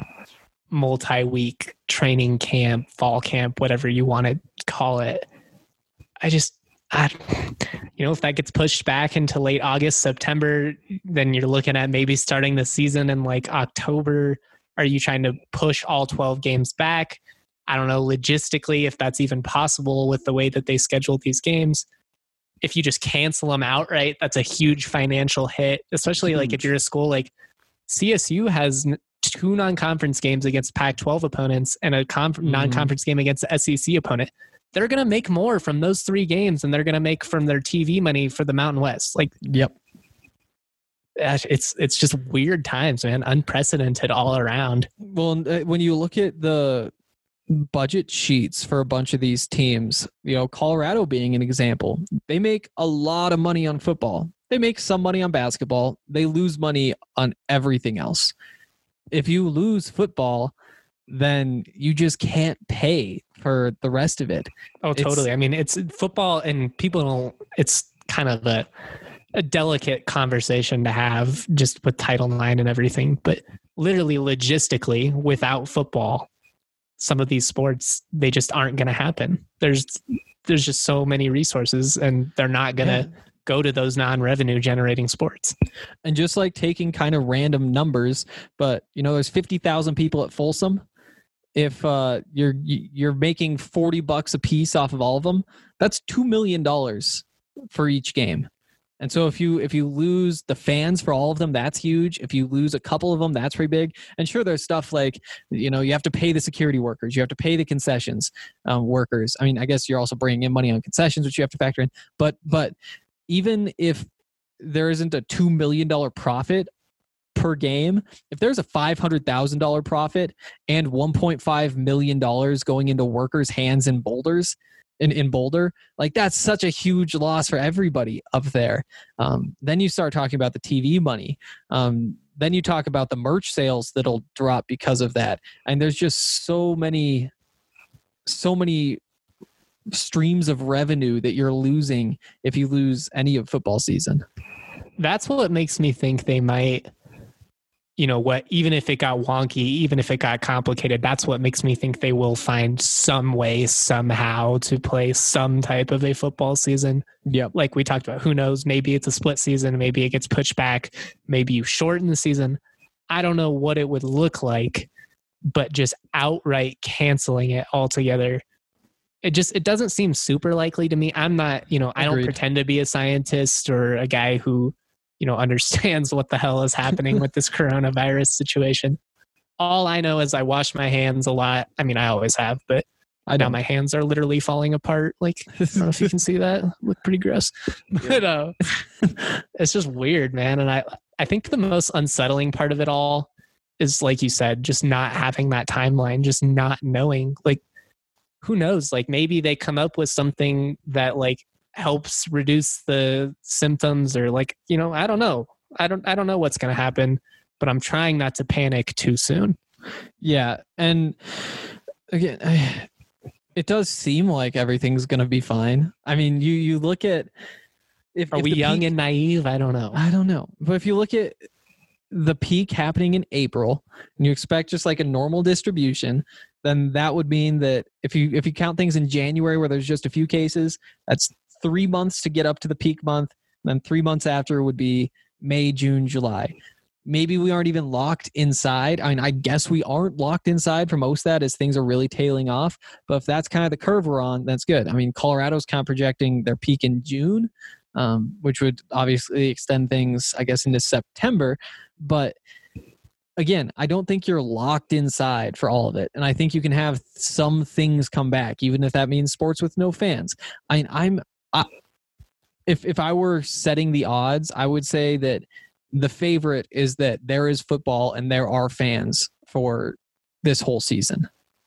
multi-week training camp, fall camp, whatever you want to call it. I just, I, you know, if that gets pushed back into late August, September, then you're looking at maybe starting the season in like October. Are you trying to push all twelve games back? I don't know logistically if that's even possible with the way that they schedule these games. If you just cancel them outright, that's a huge financial hit, especially huge. Like if you're a school like C S U has two non-conference games against Pac twelve opponents and a conf- mm. non-conference game against the S E C opponent. They're going to make more from those three games than they're going to make from their T V money for the Mountain West. Like, yep. It's it's just weird times, man. Unprecedented all around. Well, when you look at the budget sheets for a bunch of these teams, you know, Colorado being an example, they make a lot of money on football. They make some money on basketball. They lose money on everything else. If you lose football, then you just can't pay for the rest of it. Oh, totally. It's, I mean, it's football and people don't, it's kind of a, a delicate conversation to have just with Title nine and everything, but literally logistically without football, some of these sports, they just aren't going to happen. There's, there's just so many resources and they're not going to yeah. go to those non-revenue generating sports. And just like taking kind of random numbers, but you know, there's fifty thousand people at Folsom. If uh, you're you're making forty bucks a piece off of all of them, that's two million dollars for each game. And so if you if you lose the fans for all of them, that's huge. If you lose a couple of them, that's pretty big. And sure, there's stuff like, you know, you have to pay the security workers, you have to pay the concessions um, workers. I mean, I guess you're also bringing in money on concessions, which you have to factor in. But but even if there isn't a two million dollars profit per game, if there's a five hundred thousand dollars profit and one point five million dollars going into workers' hands in boulders, in, in Boulder, like that's such a huge loss for everybody up there. Um, then you start talking about the T V money. Um, then you talk about the merch sales that'll drop because of that. And there's just so many, so many streams of revenue that you're losing if you lose any of football season. That's what makes me think they might, you know what, even if it got wonky, even if it got complicated, that's what makes me think they will find some way somehow to play some type of a football season. Yep. Like we talked about, who knows, maybe it's a split season, maybe it gets pushed back, maybe you shorten the season. I don't know what it would look like, but just outright canceling it altogether, it just, it doesn't seem super likely to me. I'm not, you know, I Agreed. Don't pretend to be a scientist or a guy who, you know, understands what the hell is happening with this coronavirus situation. All I know is I wash my hands a lot. I mean, I always have, but I know my hands are literally falling apart. Like, I don't know if you can see that. Look pretty gross. But uh, it's just weird, man. And I, I think the most unsettling part of it all is, like you said, just not having that timeline, just not knowing. Like, who knows? Like, maybe they come up with something that, like, helps reduce the symptoms, or like, you know, I don't know. I don't, I don't know what's going to happen, but I'm trying not to panic too soon. Yeah. And again, it does seem like everything's going to be fine. I mean, you, you look at, if, are if we young peak, and naive? I don't know. I don't know. But if you look at the peak happening in April and you expect just like a normal distribution, then that would mean that if you, if you count things in January where there's just a few cases, that's three months to get up to the peak month. Then three months after would be May, June, July. Maybe we aren't even locked inside. I mean, I guess we aren't locked inside for most of that as things are really tailing off. But if that's kind of the curve we're on, that's good. I mean, Colorado's kind of projecting their peak in June, um, which would obviously extend things, I guess, into September. But again, I don't think you're locked inside for all of it. And I think you can have some things come back, even if that means sports with no fans. I mean, I'm, I, if if I were setting the odds, I would say that the favorite is that there is football and there are fans for this whole season.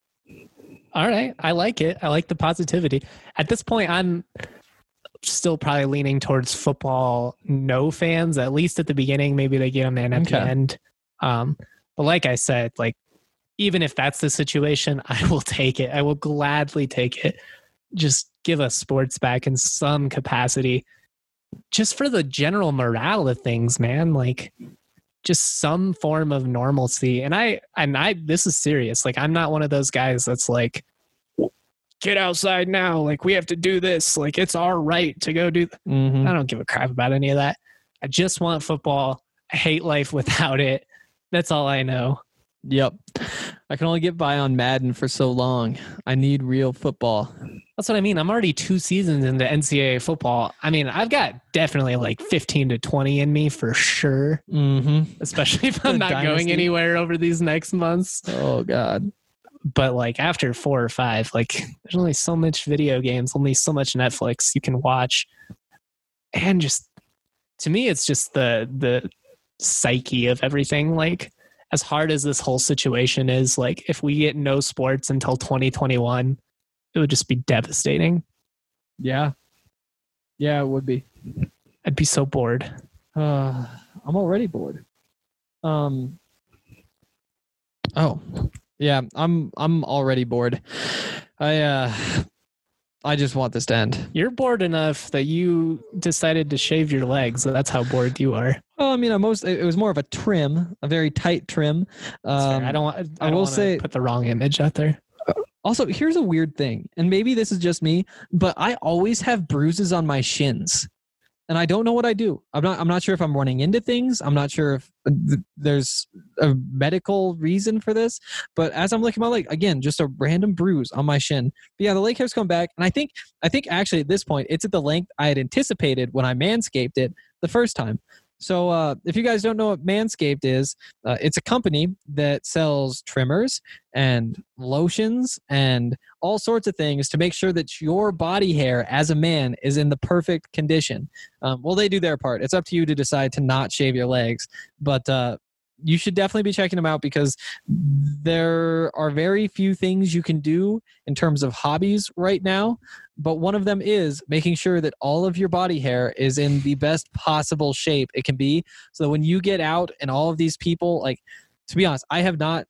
All right. I like it. I like the positivity. At this point, I'm still probably leaning towards football, no fans, at least at the beginning. Maybe they get them in at okay. the end. Um, but like I said, like, even if that's the situation, I will take it. I will gladly take it. Just give us sports back in some capacity, just for the general morale of things, man. Like, just some form of normalcy. And I, and I, this is serious. Like, I'm not one of those guys that's like, get outside now. Like, we have to do this. Like, it's our right to go do. Th-. Mm-hmm. I don't give a crap about any of that. I just want football. I hate life without it. That's all I know. Yep. I can only get by on Madden for so long. I need real football. That's what I mean. I'm already two seasons into N C double A football. I mean, I've got definitely like fifteen to twenty in me for sure. Mm-hmm. Especially if I'm not Dynasty. going anywhere over these next months. Oh, God. But like after four or five, like there's only so much video games, only so much Netflix you can watch. And just, to me, it's just the the psyche of everything. Like, as hard as this whole situation is, like if we get no sports until twenty twenty-one, it would just be devastating. Yeah. Yeah, it would be. I'd be so bored. Uh, I'm already bored. Um. Oh, yeah. I'm. I'm already bored. I. Uh. I just want this to end. You're bored enough that you decided to shave your legs. So that's how bored you are. Well, I mean, I most. It was more of a trim, a very tight trim. Um, I don't want. I, I don't will want say. to put the wrong image out there. Also, here's a weird thing, and maybe this is just me, but I always have bruises on my shins. And I don't know what I do. I'm not. I'm not sure if I'm running into things. I'm not sure if th- there's a medical reason for this. But as I'm looking at my leg, again, just a random bruise on my shin. But yeah, the leg hair's come back, and I think. I think actually at this point, it's at the length I had anticipated when I manscaped it the first time. So uh, if you guys don't know what Manscaped is, uh, it's a company that sells trimmers and lotions and all sorts of things to make sure that your body hair as a man is in the perfect condition. Um, well, they do their part. It's up to you to decide to not shave your legs. But uh, you should definitely be checking them out because there are very few things you can do in terms of hobbies right now. But one of them is making sure that all of your body hair is in the best possible shape it can be. So that when you get out and all of these people, like, to be honest, I have not,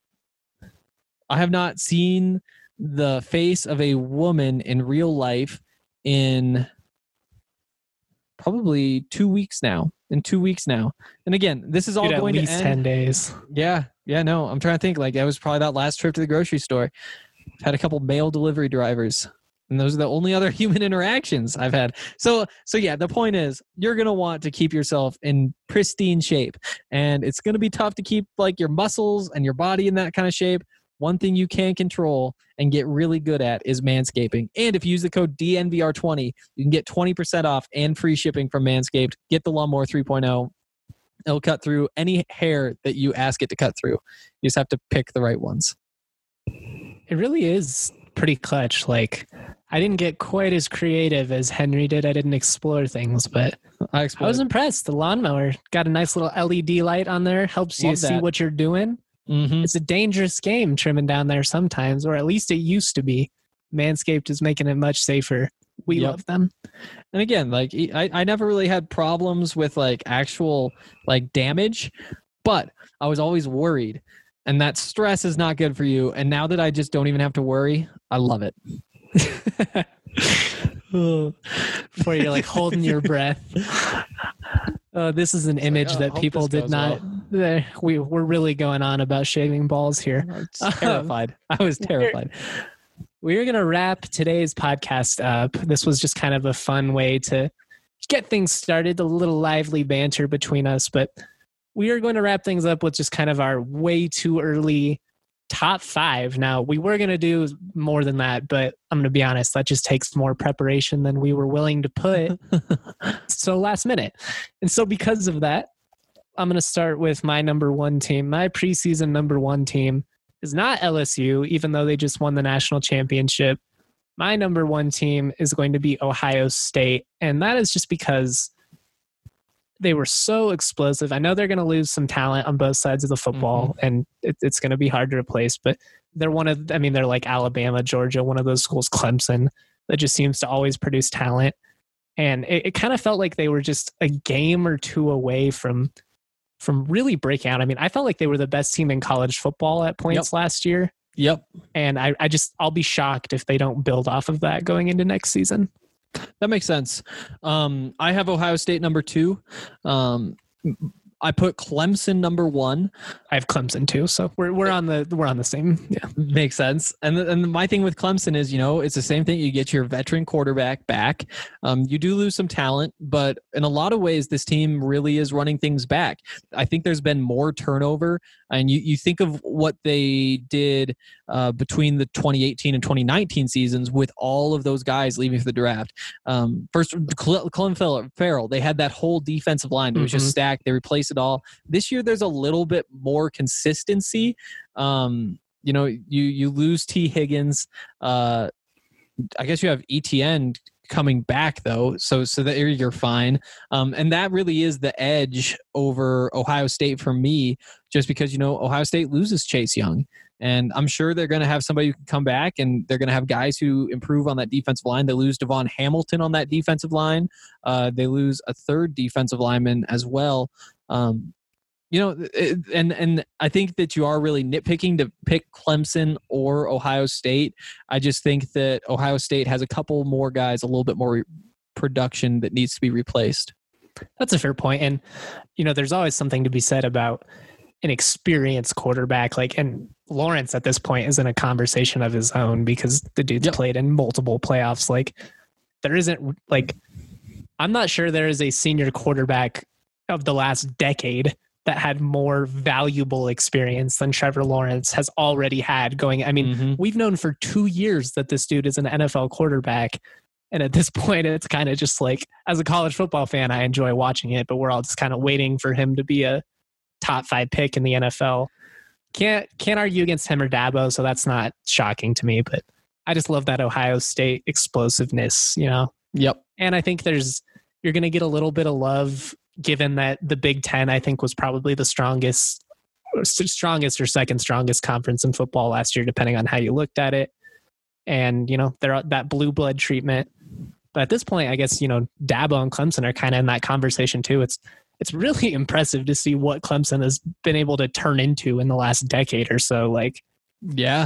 I have not seen the face of a woman in real life in probably two weeks now. In two weeks now. And again, this is all Dude, going at least to end. ten days. Yeah. Yeah. No, I'm trying to think. Like, that was probably that last trip to the grocery store. I've had a couple mail delivery drivers. And those are the only other human interactions I've had. So, so yeah, the point is you're going to want to keep yourself in pristine shape. And it's going to be tough to keep like your muscles and your body in that kind of shape. One thing you can control and get really good at is manscaping. And if you use the code D N V R twenty, you can get twenty percent off and free shipping from Manscaped. Get the Lawnmower three point oh. It'll cut through any hair that you ask it to cut through. You just have to pick the right ones. It really is pretty clutch. Like, I didn't get quite as creative as Henry did. I didn't explore things, but I, I was impressed. The lawnmower got a nice little L E D light on there. Helps you Love see that. what you're doing. Mm-hmm. It's a dangerous game trimming down there sometimes, or at least it used to be. Manscaped is making it much safer. We Yep. love them. And again, like I, I never really had problems with like actual like damage, but I was always worried. And that stress is not good for you. And now that I just don't even have to worry, I love it. Before you're like holding your breath. Uh, this is an It's image like, oh, that hope people this did goes not. There, we we're really going on about shaving balls here. I was terrified. I was terrified. We're going to wrap today's podcast up. This was just kind of a fun way to get things started, a little lively banter between us. But we are going to wrap things up with just kind of our way too early top five. Now, we were going to do more than that, but I'm going to be honest, that just takes more preparation than we were willing to put. So last minute. And so because of that, I'm going to start with my number one team. My preseason number one team is not L S U, even though they just won the national championship. My number one team is going to be Ohio State. And that is just because they were so explosive. I know they're going to lose some talent on both sides of the football, mm-hmm. and it, it's going to be hard to replace. But they're one of, I mean, they're like Alabama, Georgia, one of those schools, Clemson, that just seems to always produce talent. And it, it kind of felt like they were just a game or two away from from really breaking out. I mean, I felt like they were the best team in college football at points Yep. last year. Yep. And I, I just, I'll be shocked if they don't build off of that going into next season. That makes sense. Um, I have Ohio State number two. Um, I put Clemson number one. I have Clemson too, so we're we're on the we're on the same. Yeah, makes sense. And the, and my thing with Clemson is, you know, it's the same thing. You get your veteran quarterback back. Um, you do lose some talent, but in a lot of ways, this team really is running things back. I think there's been more turnover, and you you think of what they did uh, between the twenty eighteen and twenty nineteen seasons with all of those guys leaving for the draft. Um, first, Clem Farrell, they had that whole defensive line that was mm-hmm. just stacked. They replaced it all. This year, there's a little bit more consistency. Um, you know, you you lose T. Higgins. Uh, I guess you have E T N coming back though, so so that you're fine. Um, and that really is the edge over Ohio State for me, just because, you know, Ohio State loses Chase Young. And I'm sure they're going to have somebody who can come back, and they're going to have guys who improve on that defensive line. They lose Devon Hamilton on that defensive line. Uh, they lose a third defensive lineman as well. Um, you know, it, and and I think that you are really nitpicking to pick Clemson or Ohio State. I just think that Ohio State has a couple more guys, a little bit more re- production that needs to be replaced. That's a fair point. And, you know, there's always something to be said about an experienced quarterback. Like, and Lawrence at this point is in a conversation of his own because the dude's yep. played in multiple playoffs. Like, there isn't, like, I'm not sure there is a senior quarterback of the last decade that had more valuable experience than Trevor Lawrence has already had going. I mean, mm-hmm. we've known for two years that this dude is an N F L quarterback. And at this point, it's kind of just like, as a college football fan, I enjoy watching it, but we're all just kind of waiting for him to be a top five pick in the N F L. Can't, can't argue against him or Dabo. So that's not shocking to me, but I just love that Ohio State explosiveness, you know? Yep. And I think there's, you're going to get a little bit of love given that the Big Ten, I think, was probably the strongest, strongest or second strongest conference in football last year, depending on how you looked at it. And, you know, they're that blue blood treatment. But at this point, I guess, you know, Dabo and Clemson are kind of in that conversation too. It's, it's really impressive to see what Clemson has been able to turn into in the last decade or so. Like, yeah.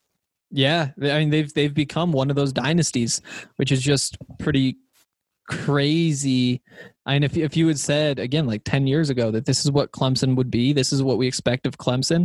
Yeah. I mean, they've, they've become one of those dynasties, which is just pretty crazy. I mean, if, if you had said, again, like ten years ago, that this is what Clemson would be, this is what we expect of Clemson,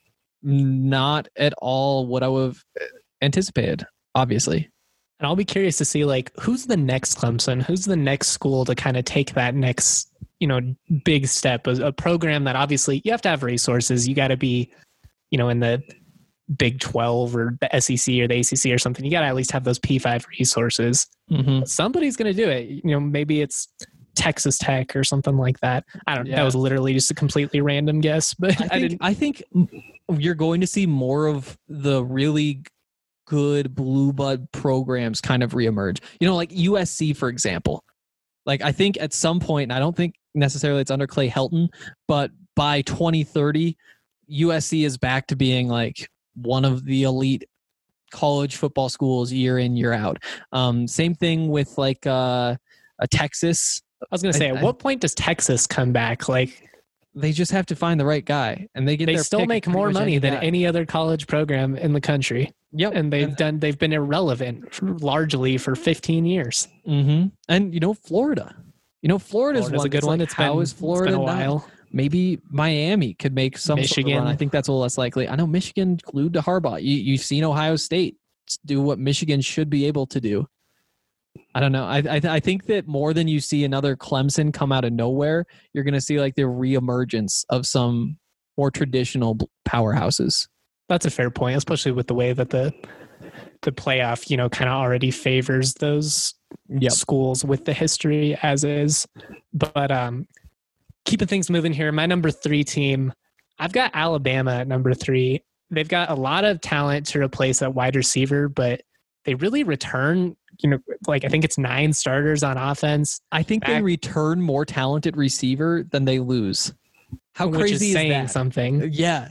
not at all what I would have anticipated, obviously. And I'll be curious to see, like, who's the next Clemson? Who's the next school to kind of take that next, you know, big step? A, a program that obviously you have to have resources. You got to be, you know, in the Big twelve or the S E C or the A C C or something. You got to at least have those P five resources. Mm-hmm. Somebody's going to do it. You know, maybe it's Texas Tech or something like that. I don't know. Yeah. That was literally just a completely random guess, but I, I think, didn't. I think you're going to see more of the really good blue blood programs kind of reemerge. You know, like U S C, for example. Like, I think at some point, and I don't think necessarily it's under Clay Helton, but by twenty thirty, U S C is back to being like one of the elite college football schools year in, year out. Um, same thing with like uh, a Texas. I was going to say, I, at I, what point does Texas come back? Like, they just have to find the right guy, and they get. They their still make more money any than guy. any other college program in the country. Yep, and they've and, done. They've been irrelevant for, largely for fifteen years. Mm-hmm. And you know, Florida. You know, Florida's, Florida's one. a good it's one. Like, it's how been, is Florida? It's been a while. Not? Maybe Miami could make some Michigan. Sort of run. I think that's a little less likely. I know Michigan glued to Harbaugh. You, you've seen Ohio State do what Michigan should be able to do. I don't know. I I, I think that more than you see another Clemson come out of nowhere, you're going to see like the reemergence of some more traditional powerhouses. That's a fair point, especially with the way that the the playoff, you know, kind of already favors those yep. schools with the history as is. But um, keeping things moving here, my number three team, I've got Alabama at number three. They've got a lot of talent to replace at wide receiver, but they really return, you know, like I think it's nine starters on offense. I think Back, they return more talented receiver than they lose. How which crazy is, is saying that? Something. Yeah.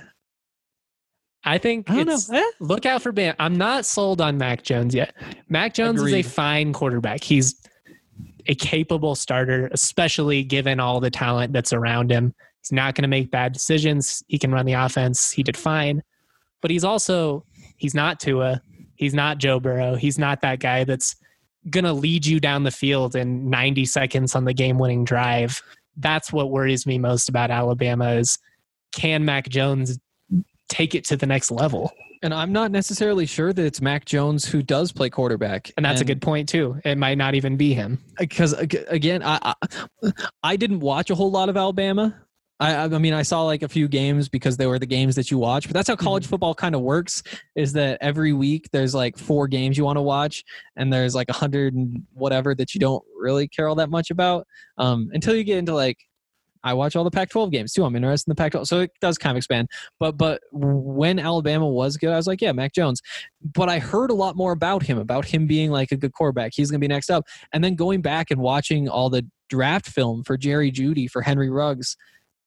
I think I don't it's, know. Eh? Look out for Bam. I'm not sold on Mac Jones yet. Mac Jones Agreed. is a fine quarterback. He's a capable starter, especially given all the talent that's around him. He's not going to make bad decisions. He can run the offense. He did fine. But he's also, he's not Tua. He's not Joe Burrow. He's not that guy that's going to lead you down the field in ninety seconds on the game-winning drive. that's what worries me most about Alabama is, can Mac Jones take it to the next level? And I'm not necessarily sure that it's Mac Jones who does play quarterback. And that's and a good point too. It might not even be him. Because again, I, I I didn't watch a whole lot of Alabama. I I mean, I saw like a few games because they were the games that you watch. But that's how college mm-hmm. football kind of works. Is that every week there's like four games you want to watch, and there's like a hundred and whatever that you don't really care all that much about um, until you get into like. I watch all the Pac twelve games too. I'm interested in the Pac twelve, so it does kind of expand. But but when Alabama was good, I was like, yeah, Mac Jones. But I heard a lot more about him, about him being like a good quarterback. He's going to be next up. And then going back and watching all the draft film for Jerry Jeudy, for Henry Ruggs.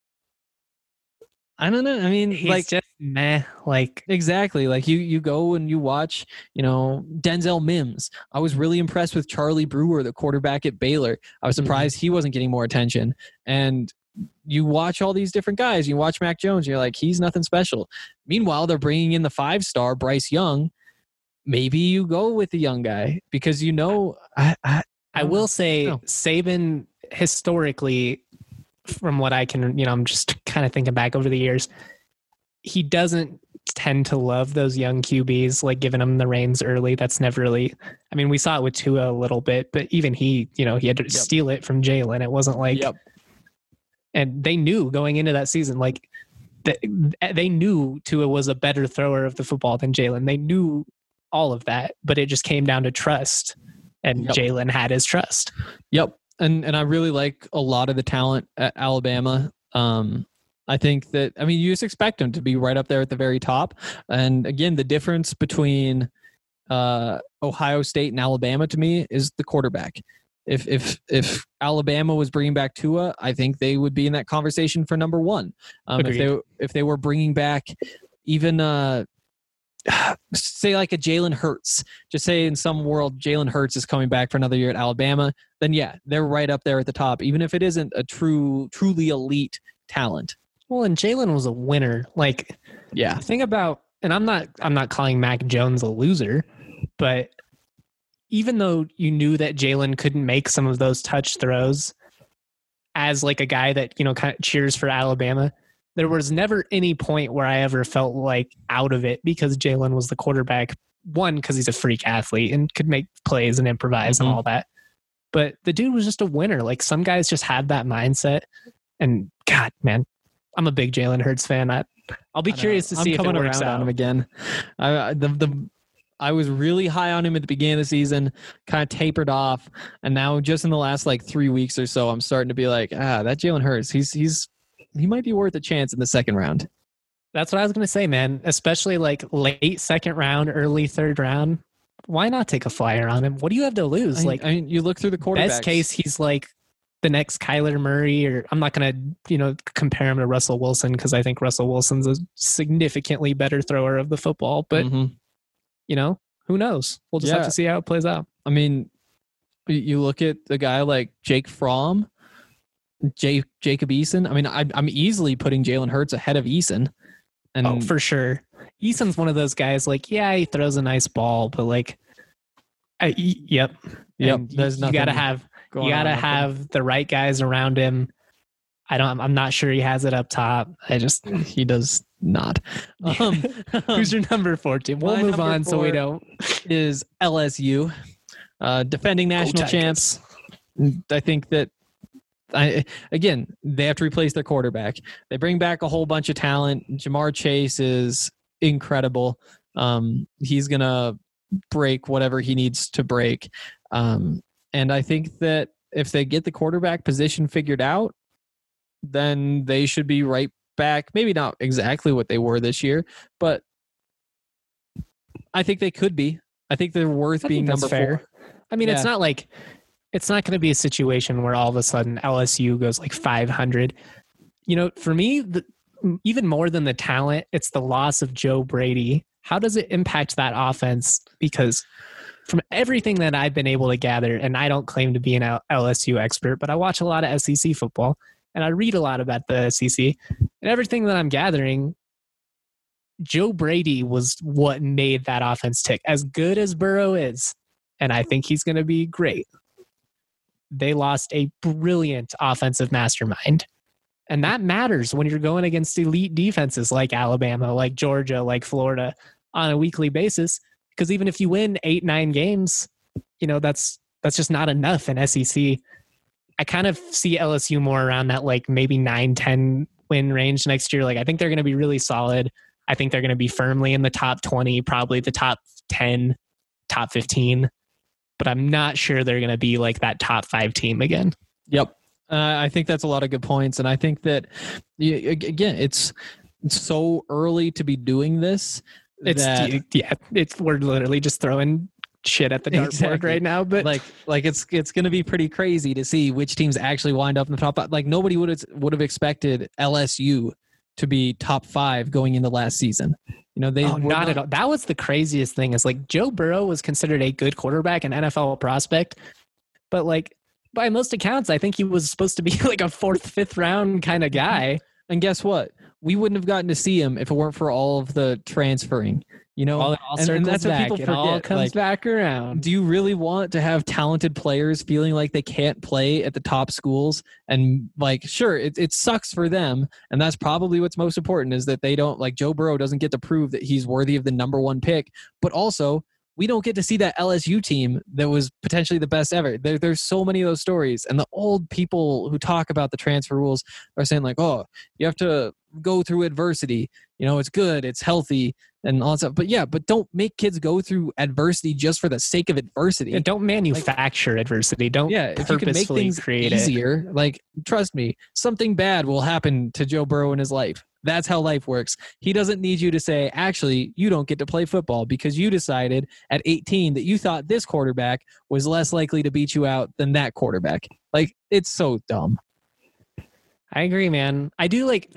I don't know. I mean, He's like just meh. Like exactly. Like you, you go and you watch, you know, Denzel Mims. I was really impressed with Charlie Brewer, the quarterback at Baylor. I was surprised mm-hmm. he wasn't getting more attention. And you watch all these different guys. You watch Mac Jones. You're like, he's nothing special. Meanwhile, they're bringing in the five-star Bryce Young. Maybe you go with the young guy because you know. I I, I will say know. Saban historically, from what I can, you know, I'm just kind of thinking back over the years, he doesn't tend to love those young Q Bs, like giving them the reins early. That's never really. I mean, we saw it with Tua a little bit, but even he, you know, he had to yep. steal it from Jalen. It wasn't like. Yep. And they knew going into that season, like they, they knew Tua was a better thrower of the football than Jalen. They knew all of that, but it just came down to trust, and yep. Jalen had his trust. Yep, and and I really like a lot of the talent at Alabama. Um, I think that I mean you just expect him to be right up there at the very top. And again, the difference between uh, Ohio State and Alabama to me is the quarterback. If if if Alabama was bringing back Tua, I think they would be in that conversation for number one. Um, if they if they were bringing back even uh, say like a Jalen Hurts, just say in some world Jalen Hurts is coming back for another year at Alabama, then yeah, they're right up there at the top, even if it isn't a true truly elite talent. Well, and Jalen was a winner. Like, yeah, think about, and I'm not I'm not calling Mac Jones a loser, but even though you knew that Jalen couldn't make some of those touch throws as like a guy that, you know, kind of cheers for Alabama, there was never any point where I ever felt like out of it because Jalen was the quarterback. One, because he's a freak athlete and could make plays and improvise mm-hmm. and all that. But the dude was just a winner. Like some guys just have that mindset. And God, man, I'm a big Jalen Hurts fan. I, I'll be curious to see I'm if it works out out. On him again. I, the the I was really high on him at the beginning of the season, kind of tapered off, and now just in the last like three weeks or so, I'm starting to be like, ah, that Jalen Hurts, he's he's he might be worth a chance in the second round. That's what I was going to say, man. Especially like late second round, early third round. Why not take a flyer on him? What do you have to lose? I, like, I mean, you look through the quarterbacks. Best case, he's like the next Kyler Murray, or I'm not going to, you know, compare him to Russell Wilson because I think Russell Wilson's a significantly better thrower of the football, but. Mm-hmm. You know, who knows? We'll just yeah. have to see how it plays out. I mean, you look at the guy like Jake Fromm, Jake, Jacob Eason. I mean, I, I'm easily putting Jalen Hurts ahead of Eason. And oh, for sure. Eason's one of those guys like, yeah, he throws a nice ball, but like, I, yep. Yep. And There's you, nothing you gotta have, you gotta have him. The right guys around him. I don't, I'm not sure he has it up top. I just, he does not. Um, Who's your number fourteen? We'll move on so we don't. Is L S U, uh, defending national champs. I think that, I again, they have to replace their quarterback. They bring back a whole bunch of talent. Jamar Chase is incredible. Um, he's going to break whatever he needs to break. Um, and I think that if they get the quarterback position figured out, then they should be right back. Maybe not exactly what they were this year, but I think they could be. I think they're worth being number fair. four. I mean, yeah. it's not like it's not going to be a situation where all of a sudden L S U goes like five hundred. You know, for me, the, even more than the talent, it's the loss of Joe Brady. How does it impact that offense? Because from everything that I've been able to gather, and I don't claim to be an L S U expert, but I watch a lot of S E C football. And I read a lot about the S E C, and everything that I'm gathering, Joe Brady was what made that offense tick. As good as Burrow is, and I think he's going to be great, they lost a brilliant offensive mastermind. And that matters when you're going against elite defenses like Alabama, like Georgia, like Florida on a weekly basis. Because even if you win eight, nine games, you know, that's that's just not enough in S E C. I kind of see L S U more around that like maybe nine, ten win range next year. Like I think they're going to be really solid. I think they're going to be firmly in the top twenty, probably the top ten, top fifteen. But I'm not sure they're going to be like that top five team again. Yep. Uh, I think that's a lot of good points. And I think that, again, it's, it's so early to be doing this. It's, that, yeah, it's, we're literally just throwing shit at the dartboard exactly. right now. But like, like it's, it's going to be pretty crazy to see which teams actually wind up in the top. Like nobody would have, would have expected L S U to be top five going into last season. You know, they oh, were not, not at all. That was the craziest thing is like Joe Burrow was considered a good quarterback, an N F L prospect, but like by most accounts, I think he was supposed to be like a fourth, fifth round kind of guy. And guess what? We wouldn't have gotten to see him if it weren't for all of the transferring. You know, all, it all and, and that's back. what people It forget. all comes like, back around. Do you really want to have talented players feeling like they can't play at the top schools? And like, sure, it, it sucks for them. And that's probably what's most important is that they don't like Joe Burrow doesn't get to prove that he's worthy of the number one pick, but also we don't get to see that L S U team that was potentially the best ever. There, there's so many of those stories. And the old people who talk about the transfer rules are saying like, oh, you have to go through adversity. You know, it's good, it's healthy, and all that stuff. But yeah, but don't make kids go through adversity just for the sake of adversity. Yeah, don't manufacture like, adversity. Don't yeah, if you can make things create easier, it. Like, trust me, something bad will happen to Joe Burrow in his life. That's how life works. He doesn't need you to say, actually, you don't get to play football because you decided at eighteen that you thought this quarterback was less likely to beat you out than that quarterback. Like, it's so dumb. I agree, man. I do like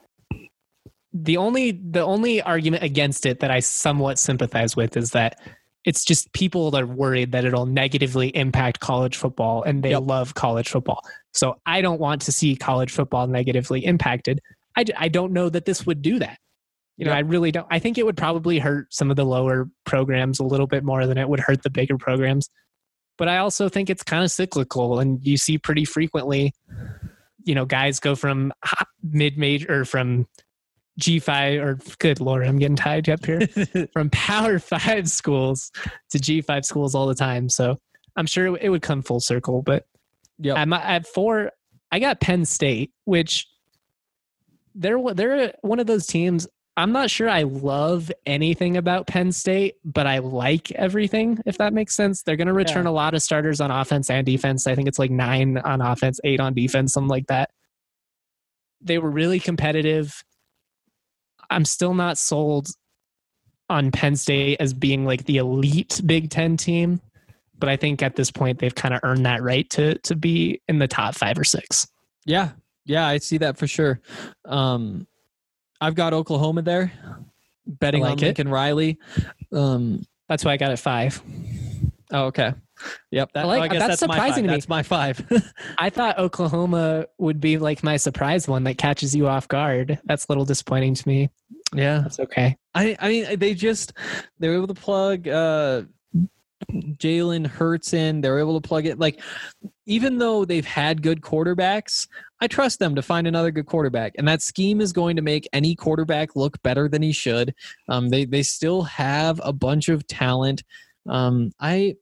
the only the only argument against it that I somewhat sympathize with is that it's just people that are worried that it'll negatively impact college football and they yep. love college football. So I don't want to see college football negatively impacted. I, I don't know that this would do that. You know, yep. I really don't. I think it would probably hurt some of the lower programs a little bit more than it would hurt the bigger programs. But I also think it's kind of cyclical, and you see pretty frequently, you know, guys go from mid-major or from G five or good Lord, I'm getting tied up here from Power Five schools to G five schools all the time. So I'm sure it would come full circle. But yeah, at, at four, I got Penn State, which they're they're one of those teams. I'm not sure I love anything about Penn State, but I like everything, if that makes sense. They're going to return yeah. a lot of starters on offense and defense. I think it's like nine on offense, eight on defense, something like that. They were really competitive. I'm still not sold on Penn State as being like the elite Big Ten team, but I think at this point they've kind of earned that right to to be in the top five or six. Yeah, yeah, I see that for sure. Um, I've got Oklahoma there, betting like on Lincoln it. Riley. Um, that's why I got it five. Oh, okay. Yep. That, like, oh, I guess that's, that's surprising my to me. That's my five. I thought Oklahoma would be like my surprise one that catches you off guard. That's a little disappointing to me. Yeah. That's okay. I, I mean, they just, they were able to plug uh, Jalen Hurts in. They were able to plug it. Like, even though they've had good quarterbacks, I trust them to find another good quarterback. And that scheme is going to make any quarterback look better than he should. Um, they, they still have a bunch of talent. Um, I,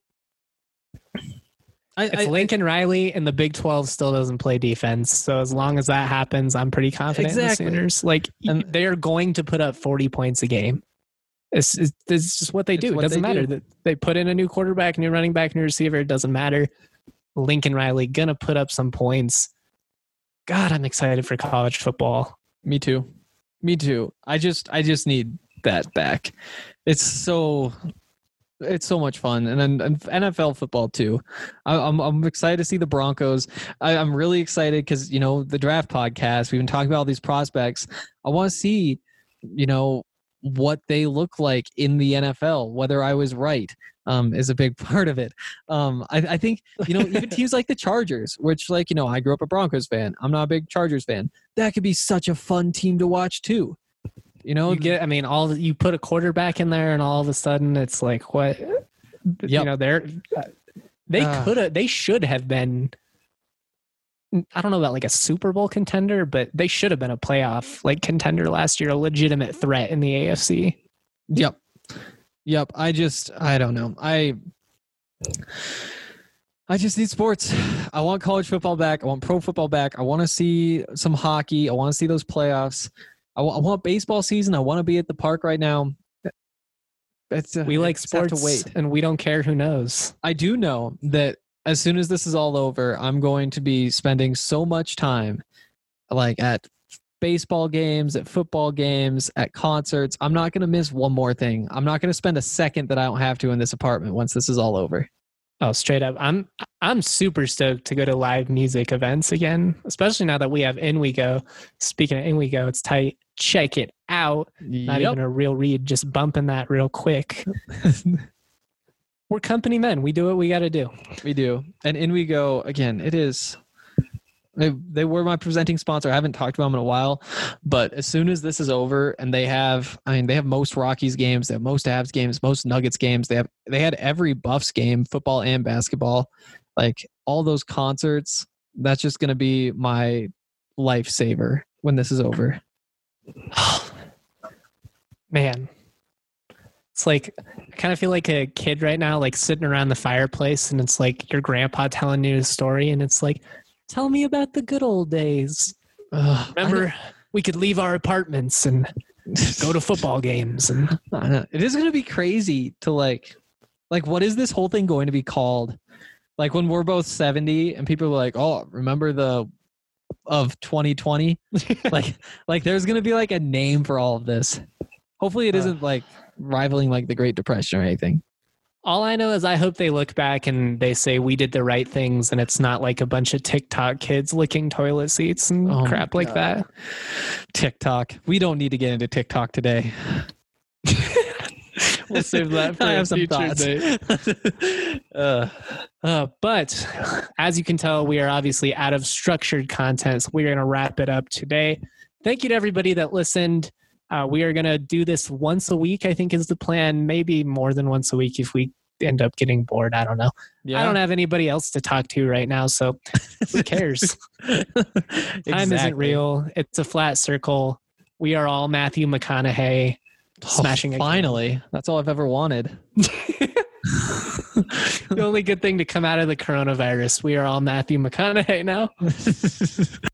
I, if I, Lincoln Riley in the Big twelve still doesn't play defense, so as long as that happens, I'm pretty confident exactly. in the Sooners. Like, and they are going to put up forty points a game. It's, it's, it's just what they do. It doesn't matter. Do. They put in a new quarterback, new running back, new receiver. It doesn't matter. Lincoln Riley gonna put up some points. God, I'm excited for college football. Me too. Me too. I just I just need that back. It's so it's so much fun, and then and N F L football too. I, I'm I'm excited to see the Broncos. I, I'm really excited because you know the draft podcast. We've been talking about all these prospects. I want to see, you know, what they look like in the N F L. Whether I was right um, is a big part of it. Um, I, I think you know even teams like the Chargers, which like you know I grew up a Broncos fan. I'm not a big Chargers fan. That could be such a fun team to watch too. You know, you get, I mean, all you put a quarterback in there and all of a sudden it's like, what, yep. you know, they're, they uh, could have, they should have been I don't know about like a Super Bowl contender, but they should have been a playoff like contender last year, a legitimate threat in the A F C. Yep. Yep. I just, I don't know. I, I just need sports. I want college football back. I want pro football back. I want to see some hockey. I want to see those playoffs. I, w- I want baseball season. I want to be at the park right now. It's, uh, we like just have sports to wait. and we don't care who knows. I do know that as soon as this is all over, I'm going to be spending so much time like at baseball games, at football games, at concerts. I'm not going to miss one more thing. I'm not going to spend a second that I don't have to in this apartment once this is all over. Oh, straight up. I'm I'm super stoked to go to live music events again, especially now that we have In We Go. Speaking of In We Go, it's tight. Check it out. Not Yep. even a real read, just bumping that real quick. We're company men. We do what we got to do. We do. And In We Go, again, it is... They, they were my presenting sponsor. I haven't talked about them in a while, but as soon as this is over and they have, I mean, they have most Rockies games, they have most Avs games, most Nuggets games. They have, they had every Buffs game, football and basketball, like all those concerts. That's just going to be my lifesaver when this is over. Man, it's like, I kind of feel like a kid right now, like sitting around the fireplace and it's like your grandpa telling you a story and it's like, tell me about the good old days. Uh, Remember, we could leave our apartments and go to football games. And I know. It is going to be crazy to like, like, what is this whole thing going to be called? Like when we're both seventy and people are like, oh, remember the of twenty twenty? like, like there's going to be like a name for all of this. Hopefully it isn't like rivaling like the Great Depression or anything. all I know is I hope they look back and they say we did the right things and it's not like a bunch of TikTok kids licking toilet seats and Oh my crap like God. that. TikTok. We don't need to get into TikTok today. We'll save that for I a have some future thoughts. date. uh, Uh, but as you can tell, we are obviously out of structured content. So we're going to wrap it up today. Thank you to everybody that listened. Uh, we are going to do this once a week, I think is the plan. Maybe more than once a week if we end up getting bored. I don't know. yeah. I don't have anybody else to talk to right now. So who cares? Time isn't Exactly. real. It's a flat circle. We are all Matthew McConaughey smashing Oh, a finally. That's all I've ever wanted. The only good thing to come out of the coronavirus. We are all Matthew McConaughey now.